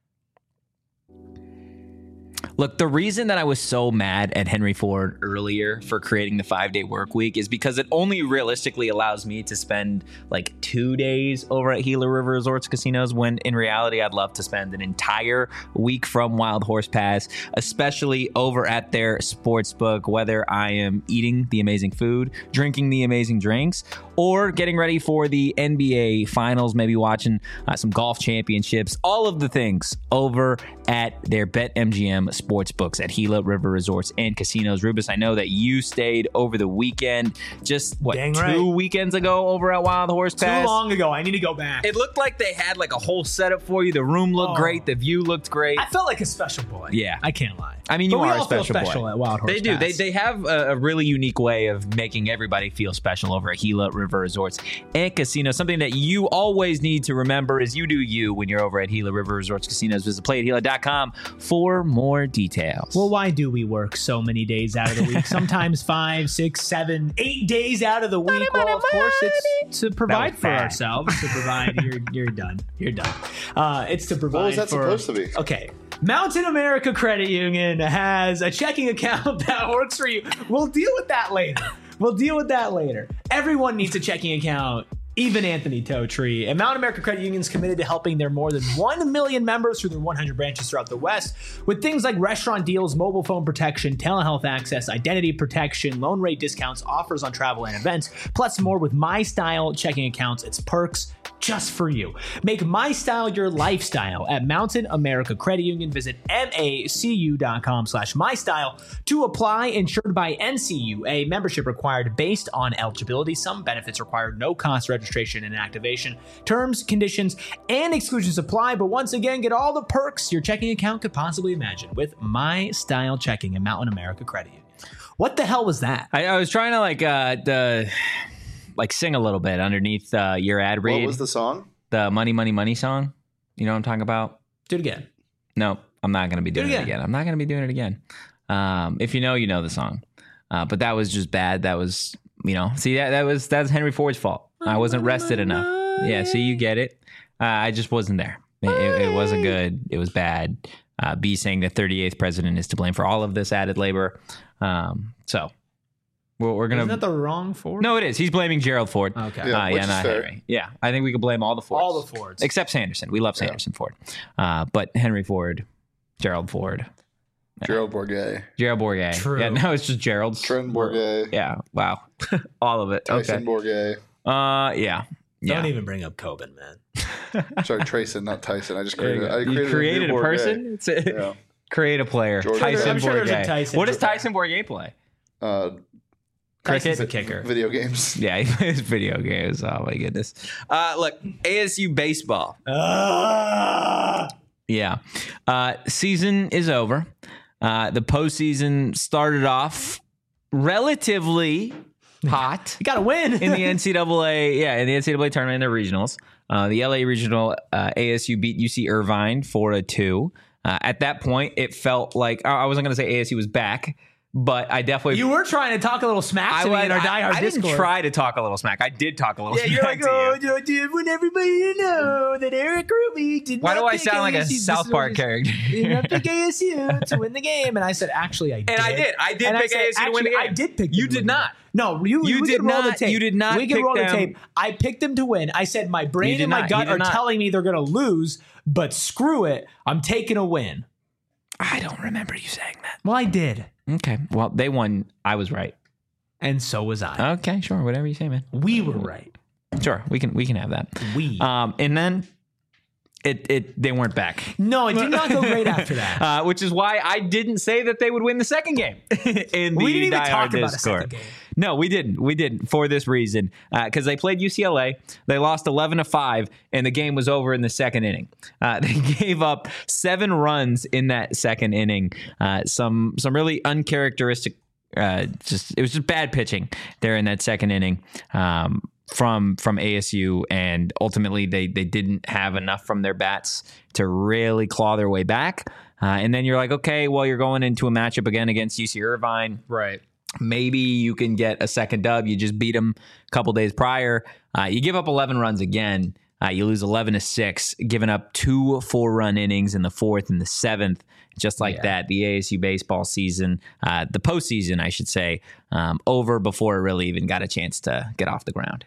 Look, the reason that I was so mad at Henry Ford earlier for creating the five-day work week is because it only realistically allows me to spend like two days over at Gila River Resorts Casinos, when in reality I'd love to spend an entire week from Wild Horse Pass, especially over at their sportsbook, whether I am eating the amazing food, drinking the amazing drinks, or getting ready for the N B A Finals, maybe watching uh, some golf championships, all of the things over at their BetMGM Sportsbooks at Gila River Resorts and Casinos. Rubus, I know that you stayed over the weekend, just what, Dang two right. weekends ago over at Wild Horse Too Pass? long ago. I need to go back. It looked like they had like a whole setup for you. The room looked Oh. great. The view looked great. I felt like a special boy. Yeah. I can't lie. I mean, you but we are all a special, feel special boy. at Wild Horse They do. Pass. They they have a, a really unique way of making everybody feel special over at Gila River Resorts and Casinos. Something that you always need to remember is you do you when you're over at Gila River Resorts Casinos. Visit play at gila dot com for more details. Well, why do we work so many days out of the week? Sometimes five, six, seven, eight days out of the week. Well, of course, it's to provide was for bad. ourselves. To provide, you're you're done. You're done. Uh, it's to provide. What was that for, supposed to be? Okay. Mountain America Credit Union has a checking account that works for you. We'll deal with that later. We'll deal with that later. Everyone needs a checking account, even Anthony Totree. And Mountain America Credit Union is committed to helping their more than one million members through their one hundred branches throughout the West with things like restaurant deals, mobile phone protection, telehealth access, identity protection, loan rate discounts, offers on travel and events, plus more with My Style checking accounts. It's perks just for you. Make My Style your lifestyle at Mountain America Credit Union. Visit macu dot com slash my style to apply. Insured by N C U A. Membership required based on eligibility. Some benefits require no cost registration and activation. Terms, conditions, and exclusions apply. But once again, get all the perks your checking account could possibly imagine with My Style Checking at Mountain America Credit Union. What the hell was that? I, I was trying to like uh the like sing a little bit underneath uh, your ad read. What was the song? The Money, Money, Money song? You know what I'm talking about? Do it again. No, I'm not going to be Do it doing it again. again. I'm not going to be doing it again. Um, if you know, you know the song. Uh, but that was just bad. That was, you know, see, that, that was that's Henry Ford's fault. I wasn't rested enough. Yeah, see, you get it. Uh, I just wasn't there. It, it, it wasn't good. It was bad. Uh, B saying the thirty-eighth president is to blame for all of this added labor. Um, so we're, we're going Isn't to. that the wrong Ford? No, it is. He's blaming Gerald Ford. Okay. Yeah, uh, which yeah is not fair. Henry. Yeah, I think we could blame all the Fords. All the Fords. Except Sanderson. We love Sanderson Ford. Uh, but Henry Ford, Gerald Ford, Gerald Bourget. Gerald Bourget. True. Yeah, no, it's just Gerald's. Trent Bourget. Yeah, wow. all of it. Tyson Okay. Bourget. Uh, yeah. Yeah. Don't even bring up Coben, man. Sorry, Trayson, not Tyson. I just There you created. go. I You created, created a, a new person? It's a, Bourget. Yeah. Create a player. Jordan- Tyson I'm sure there's a Bourget. Tyson What does Bourget. Tyson Bourget play? Uh, Cricket? Tyson's a kicker. video games. Yeah, he plays video games. Oh my goodness. Uh, look, A S U baseball. Ah! Yeah. Uh, season is over. Uh, the postseason started off relatively hot You got to win. in the N C double A. Yeah, in the N C double A tournament in the regionals. Uh, the L A regional, uh, A S U beat U C Irvine four to two. Uh, at that point, it felt like I I wasn't going to say A S U was back, but I definitely You were trying to talk a little smack to me I, in our I, diehard I Discord. didn't try to talk a little smack. I did talk a little Yeah, smack you're like, to oh, you. dude, I want everybody to know that Eric Ruby did Why not do I pick sound like a A S U. This South is Park what character? he- Did not pick A S U to win the game, and I said, actually, I did. And I did. I did And pick said, A S U to win the actually, game. I did pick. You them to did win the not. game. No, you, You we did can roll not- the tape. you did not We can pick roll the them. tape. I picked them to win. I said my You brain did and my not. You gut did are not. telling me they're going to lose, but screw it. I'm taking a win. I don't remember you saying that. Well, I did, Okay. Well, they won. I was right. and so was I. Okay, sure. Whatever you say, man. We were right. Sure. We can we can have that. We. Um, and then it it they weren't back. no, it did not go great after that. Uh, which is why I didn't say that they would win the second game in the We didn't even Die talk Hard about a Discord. second game. No, we didn't. We didn't for this reason because they played U C L A. They lost eleven to five, and the game was over in the second inning. Uh, they gave up seven runs in that second inning. Uh, some some really uncharacteristic. Uh, just it was just bad pitching there in that second inning. Um, from from A S U, and ultimately they they didn't have enough from their bats to really claw their way back. Uh, and then you're like, okay, well, you're going into a matchup again against U C Irvine. Right. Maybe you can get a second dub. You just beat them a couple days prior. Uh, you give up eleven runs again. Uh, you lose eleven to six, giving up two four-run innings in the fourth and the seventh. Just like Yeah. that, the A S U baseball season, uh, the postseason, I should say, um, over before it really even got a chance to get off the ground.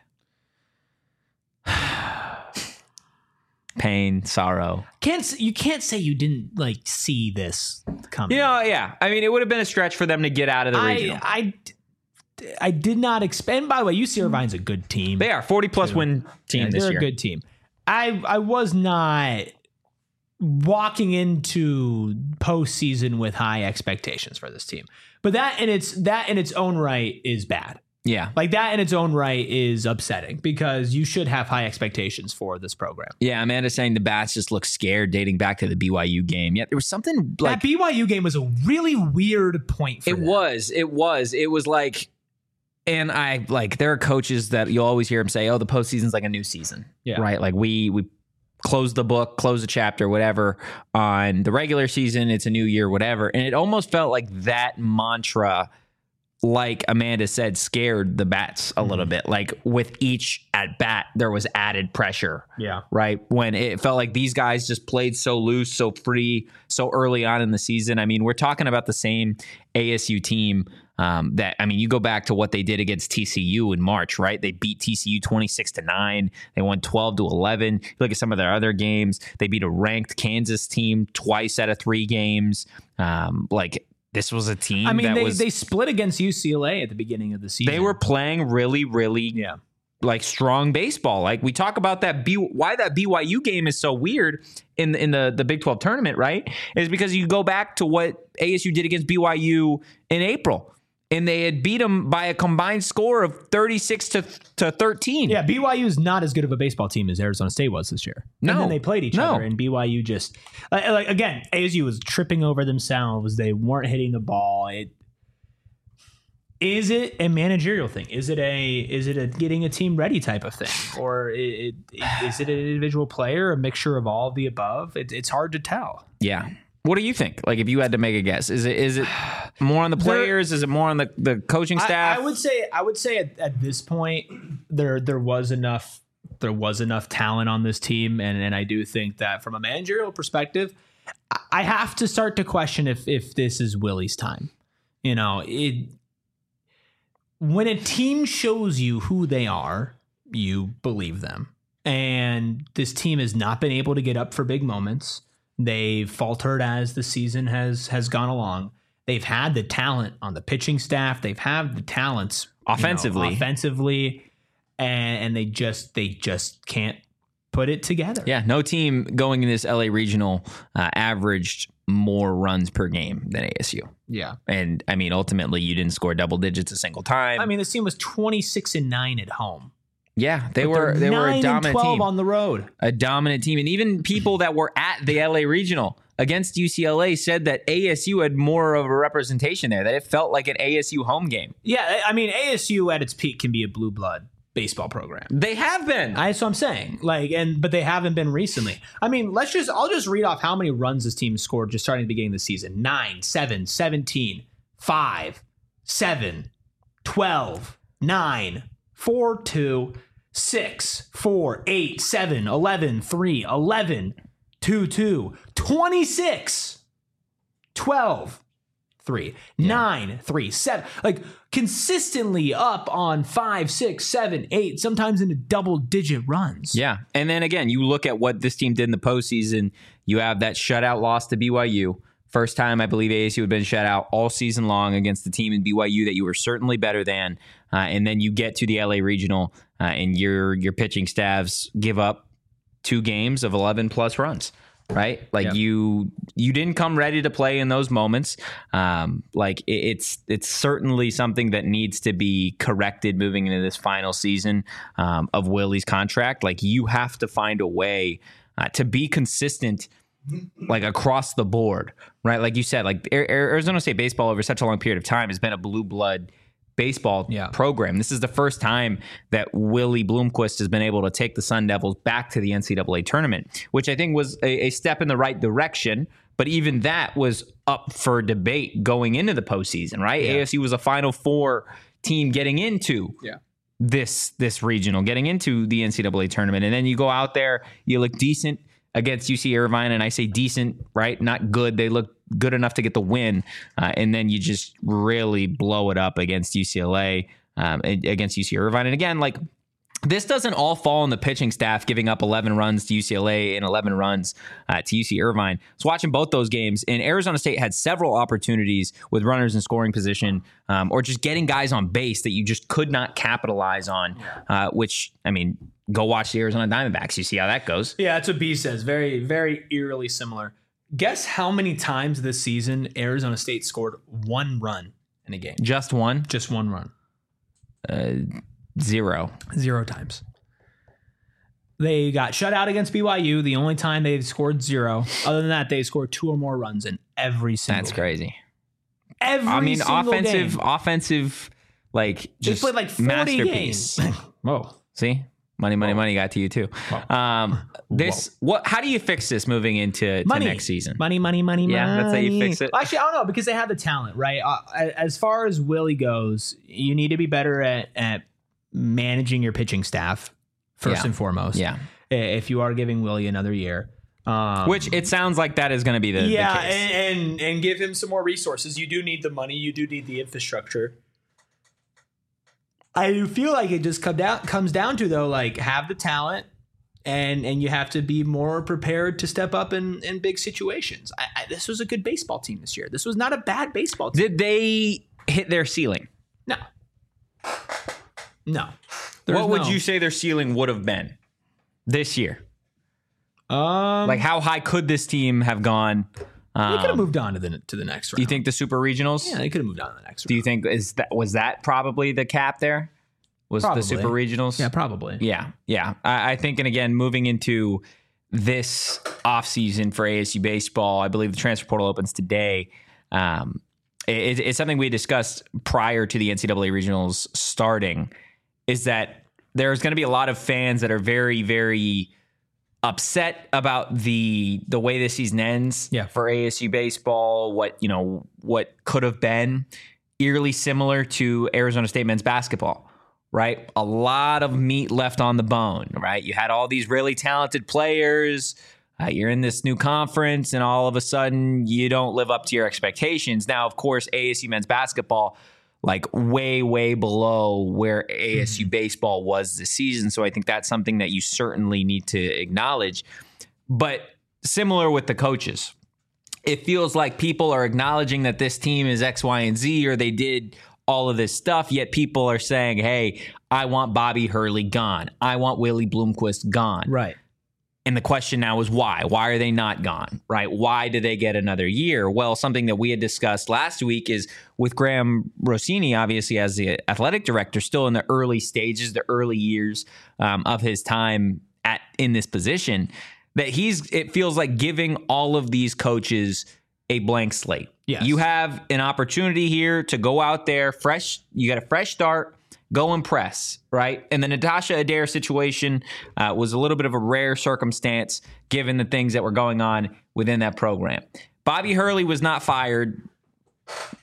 Pain, sorrow. Can't s- you can't say you didn't like see this coming. You know, yeah. I mean, it would have been a stretch for them to get out of the regional. I, I I did not expect. And by the way, U C Irvine's a good team. They are forty plus win team Yeah, this they're year. a good team. I I was not walking into postseason with high expectations for this team, but that in its that in its own right is bad. Yeah. Like that in its own right is upsetting because you should have high expectations for this program. Yeah, Amanda's saying the bats just look scared dating back to the B Y U game. Yeah, there was something like that B Y U game was a really weird point for it them. was. It was. It was like, and I like there are coaches that you'll always hear them say, "Oh, the postseason's like a new season." Yeah. Right. Like we we close the book, close the chapter, whatever. On the regular season, it's a new year, whatever. And it almost felt like that mantra, like Amanda said, scared the bats a little bit. Like with each at bat, there was added pressure. Yeah. Right. When it felt like these guys just played so loose, so free, so early on in the season. I mean, we're talking about the same A S U team um, that, I mean, you go back to what they did against T C U in March, right? They beat T C U twenty-six to nine. They won twelve to eleven. You look at some of their other games. They beat a ranked Kansas team twice out of three games. Um, like, this was a team I mean, that they, was, they split against U C L A at the beginning of the season. they were playing really, really yeah. like strong baseball. Like we talk about that B why that B Y U game is so weird in the, in the the Big twelve tournament, right? Is because you go back to what A S U did against B Y U in April, and they had beat them by a combined score of thirty-six to thirteen. Yeah, B Y U is not as good of a baseball team as Arizona State was this year. No. And then they played each No. other, and B Y U just like, like again, A S U was tripping over themselves. They weren't hitting the ball. It is it a managerial thing? Is it a is it a getting a team ready type of thing, or it, it, is it an individual player, a mixture of all of the above? It, it's hard to tell. Yeah. What do you think? Like if you had to make a guess, is it is it more on the players? Is it more on the, the coaching staff? I, I would say I would say at, at this point there there was enough there was enough talent on this team, and, and I do think that from a managerial perspective, I- I have to start to question if if this is Willie's time. You know, it when a team shows you who they are, you believe them. And this team has not been able to get up for big moments. They've faltered as the season has has gone along. They've had the talent on the pitching staff. They've had the talents you know, Offensively. offensively, and, and they just they just can't put it together. Yeah, no team going in this L A regional uh, averaged more runs per game than A S U. yeah. And I mean, ultimately, you didn't score double digits a single time. I mean, this team was twenty-six and nine at home. yeah, they But were they're they were a nine and dominant twelve team, on the road. a dominant team, and even people that were at the L A regional against U C L A said that A S U had more of a representation there. That it felt like an A S U home game. Yeah, I mean, A S U at its peak can be a blue blood baseball program. They have been. I, that's what I'm saying. Like, and but they haven't been recently. I mean, let's just I'll just read off how many runs this team scored just starting at the beginning of the season: nine, seven, seventeen, five, seven, twelve, nine, four, two, six, four, eight, seven, eleven, three, eleven, two, two, twenty-six, twelve, three, yeah. nine, three, seven, like consistently up on five, six, seven, eight, sometimes into double digit runs. Yeah. And then again, you look at what this team did in the postseason. You have that shutout loss to B Y U. First time I believe A S U had been shut out all season long against the team in B Y U that you were certainly better than. Uh, and then you get to the L A Regional uh, and your your pitching staffs give up two games of eleven plus runs. Right, like yep. you, you didn't come ready to play in those moments. Um, like it, it's it's certainly something that needs to be corrected moving into this final season um, of Willie's contract. Like you have to find a way uh, to be consistent, like across the board. Right, like you said, like Arizona State baseball over such a long period of time has been a blue blood baseball yeah. program. This is the first time that Willie Bloomquist has been able to take the Sun Devils back to the N C double A tournament, which I think was a, a step in the right direction. But even that was up for debate going into the postseason, right? Yeah. A S U was a Final Four team getting into yeah. this this regional, getting into the N C double A tournament. And then you go out there, you look decent against U C Irvine, and I say decent, right? Not good. They look good enough to get the win, uh, and then you just really blow it up against U C L A, um, against U C Irvine. And again, like this doesn't all fall on the pitching staff giving up eleven runs to U C L A and eleven runs uh, to U C Irvine. I was watching both those games, and Arizona State had several opportunities with runners in scoring position um, or just getting guys on base that you just could not capitalize on, uh, which, I mean, go watch the Arizona Diamondbacks. You see how that goes. Yeah, that's what B says. Very, very eerily similar. Guess how many times this season Arizona State scored one run in a game? Just one? Just one run. Uh, zero. Zero times. They got shut out against B Y U. The only time they've scored zero. Other than that, they scored two or more runs in every single That's game. crazy. Every I mean, single offensive, game. offensive, like, just they played like forty masterpiece. games. Whoa. See? Money, money, Whoa. money got to you too. Um, this Whoa. what? How do you fix this moving into to next season? Money, money, money, yeah, money. that's how you fix it. Well, actually, I don't know because they have the talent, right? Uh, as far as Willie goes, you need to be better at, at managing your pitching staff first yeah. and foremost. Yeah. If you are giving Willie another year, um, which it sounds like that is going to be the yeah, the case. And, and and give him some more resources. You do need the money. You do need the infrastructure. I feel like it just come down comes down to though, like have the talent, and and you have to be more prepared to step up in, in big situations. I, I, this was a good baseball team this year. This was not a bad baseball team. Did they hit their ceiling? No, no. There's what would no. you say their ceiling would have been this year? Um, like how high could this team have gone? Um, they could have moved on to the to the next round. Do you think the Super Regionals? Yeah, they could have moved on to the next round. Do you think is that was that probably the cap there? Was probably. the Super Regionals? Yeah, probably. Yeah, yeah. I, I think, and again, moving into this offseason for A S U baseball, I believe the transfer portal opens today. Um, it, it's something we discussed prior to the N C double A Regionals starting, is that there's going to be a lot of fans that are very, very upset about the the way this season ends yeah. for A S U baseball. What you know, what could have been eerily similar to Arizona State men's basketball, right? A lot of meat left on the bone, right? You had all these really talented players. Uh, you're in this new conference, and all of a sudden, you don't live up to your expectations. Now, of course, A S U men's basketball, like way, way below where A S U baseball was this season. So I think that's something that you certainly need to acknowledge. But similar with the coaches, it feels like people are acknowledging that this team is X, Y, and Z, or they did all of this stuff, yet people are saying, hey, I want Bobby Hurley gone. I want Willie Bloomquist gone. Right. And the question now is why? Why are they not gone, right? Why do they get another year? Well, something that we had discussed last week is with Graham Rossini, obviously as the athletic director, still in the early stages, the early years um, of his time at in this position, that he's, it feels like giving all of these coaches a blank slate. Yes. You have an opportunity here to go out there fresh. You got a fresh start. Go impress, right? And the Natasha Adair situation uh, was a little bit of a rare circumstance given the things that were going on within that program. Bobby Hurley was not fired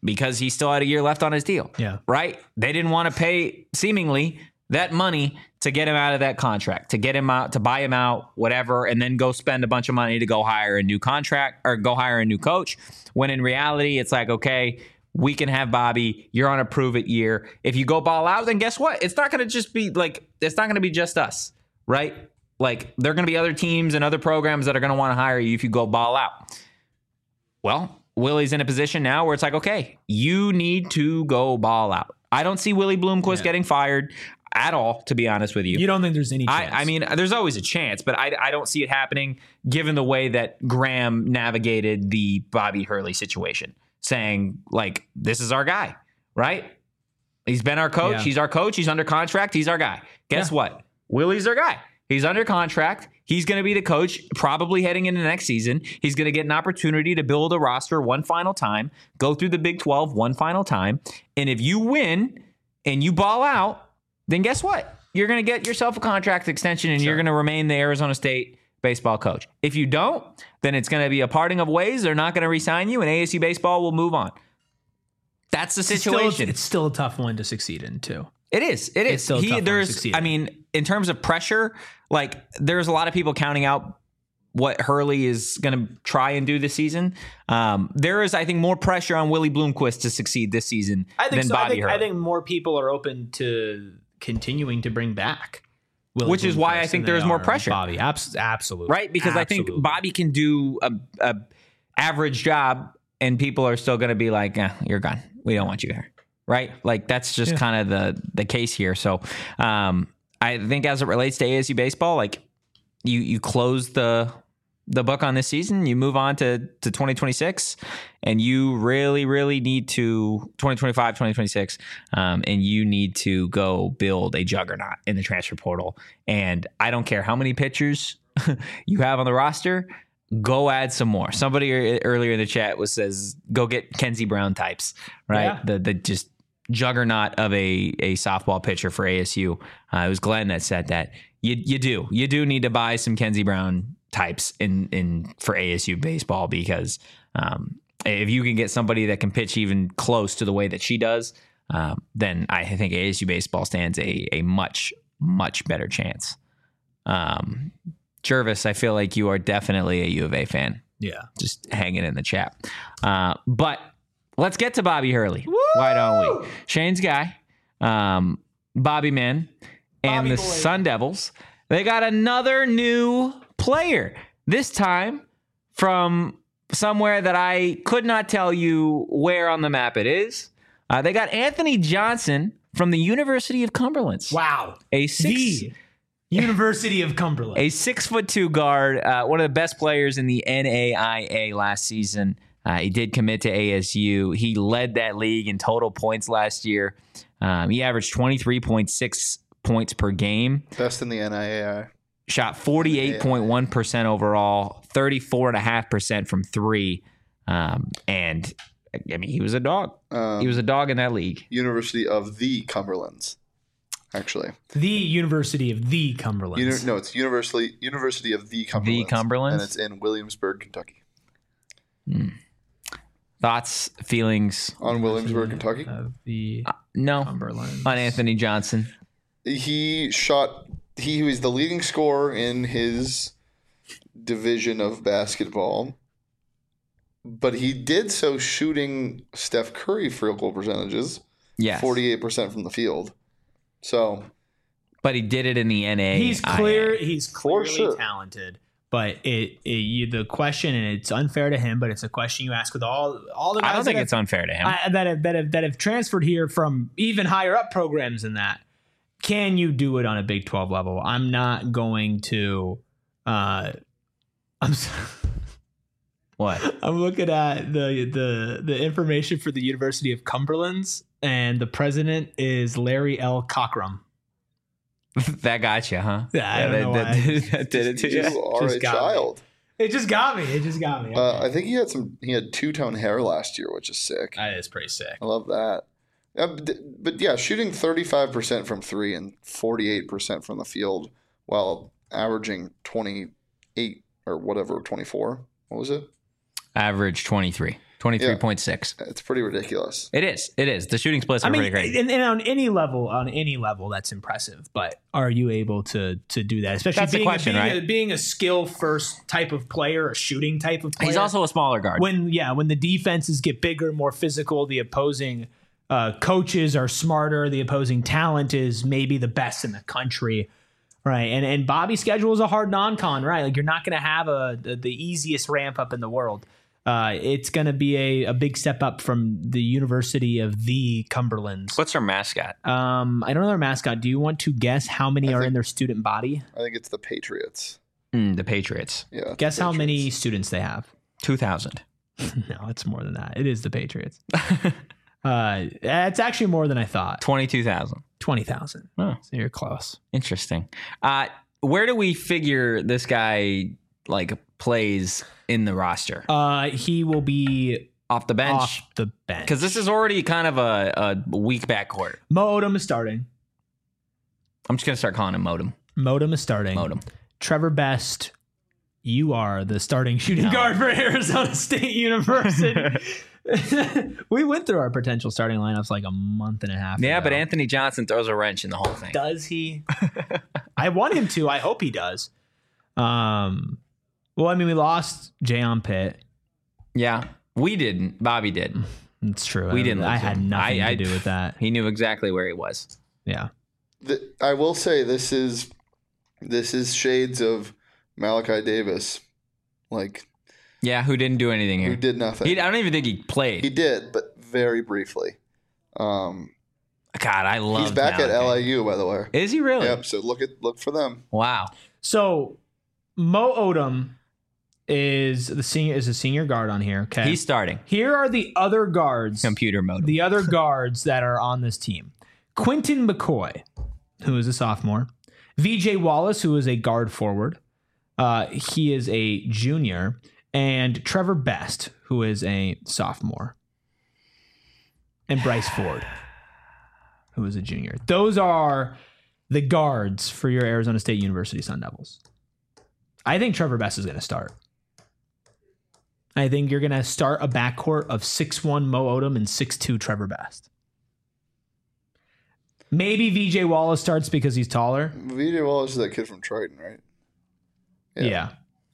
because he still had a year left on his deal. Yeah. Right? They didn't want to pay, seemingly, that money to get him out of that contract, to get him out, to buy him out, whatever, and then go spend a bunch of money to go hire a new contract or go hire a new coach. When in reality, it's like, okay, we can have Bobby. You're on a prove it year. If you go ball out, then guess what? It's not going to just be like, it's not going to be just us, right? Like, there are going to be other teams and other programs that are going to want to hire you if you go ball out. Well, Willie's in a position now where it's like, okay, you need to go ball out. I don't see Willie Bloomquist Yeah. getting fired at all, to be honest with you. You don't think there's any chance? I, I mean, there's always a chance, but I, I don't see it happening given the way that Graham navigated the Bobby Hurley situation, saying, like, this is our guy, right? He's been our coach. Yeah. He's our coach. He's under contract. He's our guy. Guess Yeah. what? Willie's our guy. He's under contract. He's going to be the coach probably heading into next season. He's going to get an opportunity to build a roster one final time, go through the Big twelve one final time. And if you win and you ball out, then guess what? You're going to get yourself a contract extension and Sure. you're going to remain the Arizona State baseball coach. If you don't, then it's going to be a parting of ways. They're not going to re-sign you and A S U baseball will move on. That's the It's still- situation. it's still a tough one to succeed in, too. It is. It is. It's still a tough one to there's. succeed I in. mean, in terms of pressure, like there's a lot of people counting out what Hurley is going to try and do this season. Um, there is, I think, more pressure on Willie Bloomquist to succeed this season I think than so. I Bobby think, Hurley. I think more people are open to continuing to bring back Willie Which is why I Bloomquist think than there's they more are pressure. Bobby, Abs- absolutely. right? Because I think Absolutely. Bobby can do a, a average job, and people are still going to be like, eh, "You're gone. We don't want you here." Right? Like that's just Yeah. kind of the the case here. So um, I think as it relates to A S U baseball, like you you close the the book on this season, you move on to to twenty twenty-six, and you really really need to twenty twenty-five, twenty twenty-six, um, and you need to go build a juggernaut in the transfer portal. And I don't care how many pitchers you have on the roster, go add some more. Somebody earlier in the chat was says go get Kenzie Brown types, right? Yeah. The the just juggernaut of a a softball pitcher for A S U. Uh, it was Glenn that said that. You you do you do need to buy some Kenzie Brown types in in for A S U baseball, because um, if you can get somebody that can pitch even close to the way that she does, um, then I think A S U baseball stands a a much much better chance. Um, Jervis, I feel like you are definitely a U of A fan. Yeah. Just hanging in the chat. Uh, but let's get to Bobby Hurley. Why don't we? Shane's guy, um, Bobby Man, and Bobby the boy. Sun Devils. They got another new player, this time from somewhere that I could not tell you where on the map it is. Uh, they got Anthony Johnson from the University of Cumberland. Wow. A six, The University of Cumberland. a six foot two guard, uh, one of the best players in the N A I A last season. Uh, he did commit to A S U. He led that league in total points last year. Um, he averaged twenty-three point six points per game. Best in the N I A I. Shot forty-eight point one percent overall, thirty-four point five percent from three. Um, and, I mean, he was a dog. Um, He was a dog in that league. University of the Cumberlands, actually. The University of the Cumberland. Uni- no, it's University University of the Cumberlands. Cumberlands? And it's in Williamsburg, Kentucky. Thoughts, feelings? On Williamsburg, Kentucky. Of the No. Cumberland. On Anthony Johnson. He shot. He was the leading scorer in his division of basketball, but he did so shooting Steph Curry field goal percentages, Yes. forty-eight percent from the field. So But he did it in the N A I A. He's clear. He's For clearly sure. talented. But it, it you, the question, and it's unfair to him, but it's a question you ask with all all the guys I don't think that it's have, unfair to him. I, that have that have that have transferred here from even higher up programs than that. Can you do it on a Big twelve level? I'm not going to. Uh, I'm. s- What? I'm looking at the the the information for the University of Cumberland's, and the president is Larry L. Cockrum. That got you, huh? Yeah, I don't that, know that, why. Did, that did it to you you. are Just a got me. child. It just got me. It just got me. Uh, I think he had some. He had two tone hair last year, which is sick. That is pretty sick. I love that. Uh, but, but yeah, shooting thirty-five percent from three and forty-eight percent from the field while averaging twenty-eight or whatever, twenty-four. What was it? Average twenty-three. twenty-three point six. It's pretty ridiculous. It is. It is. The shooting splits are I mean, pretty great. and, and on any level, on any level, that's impressive. But are you able to to do that? Especially That's the being, question, a, being, right? a, being a skill first type of player, a shooting type of player. He's also a smaller guard. when yeah, when the defenses get bigger, more physical, the opposing uh, coaches are smarter. The opposing talent is maybe the best in the country. Right, and and Bobby's schedule is a hard non-con, right? Like you're not going to have a the, the easiest ramp up in the world. Uh, it's going to be a, a big step up from the University of the Cumberlands. What's our mascot? Um, I don't know their mascot. Do you want to guess how many I are think- in their student body? I think it's the Patriots. Mm, the Patriots. Yeah. Guess how many Patriots. students they have. two thousand. No, it's more than that. It is the Patriots. uh, it's actually more than I thought. twenty-two thousand. twenty thousand. Oh. So you're close. Interesting. Uh, where do we figure this guy like plays in the roster? Uh, he will be Off the bench? off the bench. Because this is already kind of a, a weak backcourt. Mo Odom is starting. I'm just going to start calling him Modem. Modem is starting. Modem. Trevor Best, you are the starting shooting No. guard for Arizona State University. We went through our potential starting lineups like a month and a half Yeah, ago. but Anthony Johnson throws a wrench in the whole thing. Does he? I want him to. I hope he does. Um, well, I mean, we lost Jayon Pitt. Yeah, we didn't. Bobby did. It's true. We I, didn't I lose had him. nothing I- I- to do with that. He knew exactly where he was. Yeah. The, I will say this is this is shades of Malachi Davis, like Yeah, who didn't do anything who here. did nothing. He, I don't even think he played. He did, but very briefly. Um, God, I love he's back at Malachi. L A U, by the way. Is he really? Yep. So look at look for them. Wow. So Mo Odom is the senior is a senior guard on here. Okay. He's starting. Here are the other guards. Computer mode. The other guards that are on this team. Quinton McCoy, who is a sophomore. V J Wallace, who is a guard forward. Uh, he is a junior. And Trevor Best, who is a sophomore. And Bryce Ford, who is a junior. Those are the guards for your Arizona State University Sun Devils. I think Trevor Best is going to start. I think you're going to start a backcourt of six one Mo Odom and six two Trevor Best. Maybe V J Wallace starts because he's taller. V J Wallace is that kid from Triton, right? Yeah.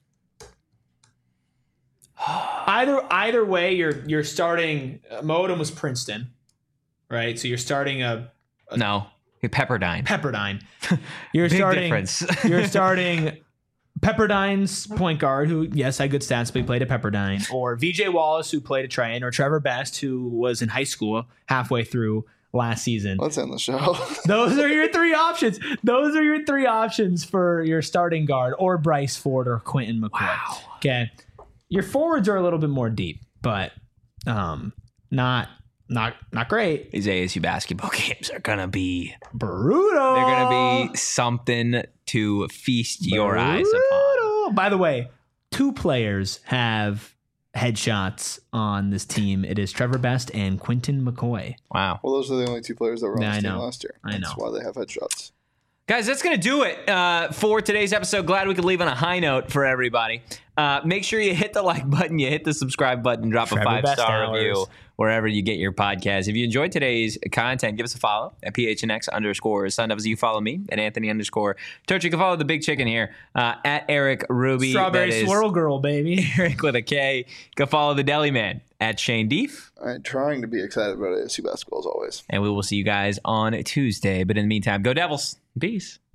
Either either way, you're you're starting. Uh, Mo Odom was Princeton, right? So you're starting a No. Pepperdine. Pepperdine. You're Big starting. difference. You're starting Pepperdine's point guard, who yes had good stats, but he played at Pepperdine, or V J Wallace, who played at Triton, or Trevor Best, who was in high school halfway through last season. Let's end the show. Those are your three options. Those are your three options for your starting guard, or Bryce Ford or Quinton McCoy. Wow. Okay. Your forwards are a little bit more deep, but um, not not not great. These A S U basketball games are going to be, Brutal. they're going to be something to feast your eyes upon. Brutal. By the way, two players have headshots on this team. It is Trevor Best and Quinton McCoy. Wow. Well, those are the only two players that were on Yeah, this I team know. last year. I That's know. why they have headshots. Guys, that's going to do it uh, for today's episode. Glad we could leave on a high note for everybody. Uh, make sure you hit the like button, you hit the subscribe button, drop Trevor a Best five-star hours. review wherever you get your podcast. If you enjoyed today's content, give us a follow at P H N X underscore Sun Devils. You follow me at Anthony underscore Turch. You can follow the big chicken here uh, at Eric Ruby. Strawberry That is Swirl Girl, baby. Eric with a K. You can follow the Deli Man at Shane Deef. I'm trying to be excited about A S U basketball as always. And we will see you guys on Tuesday. But in the meantime, go Devils. Peace.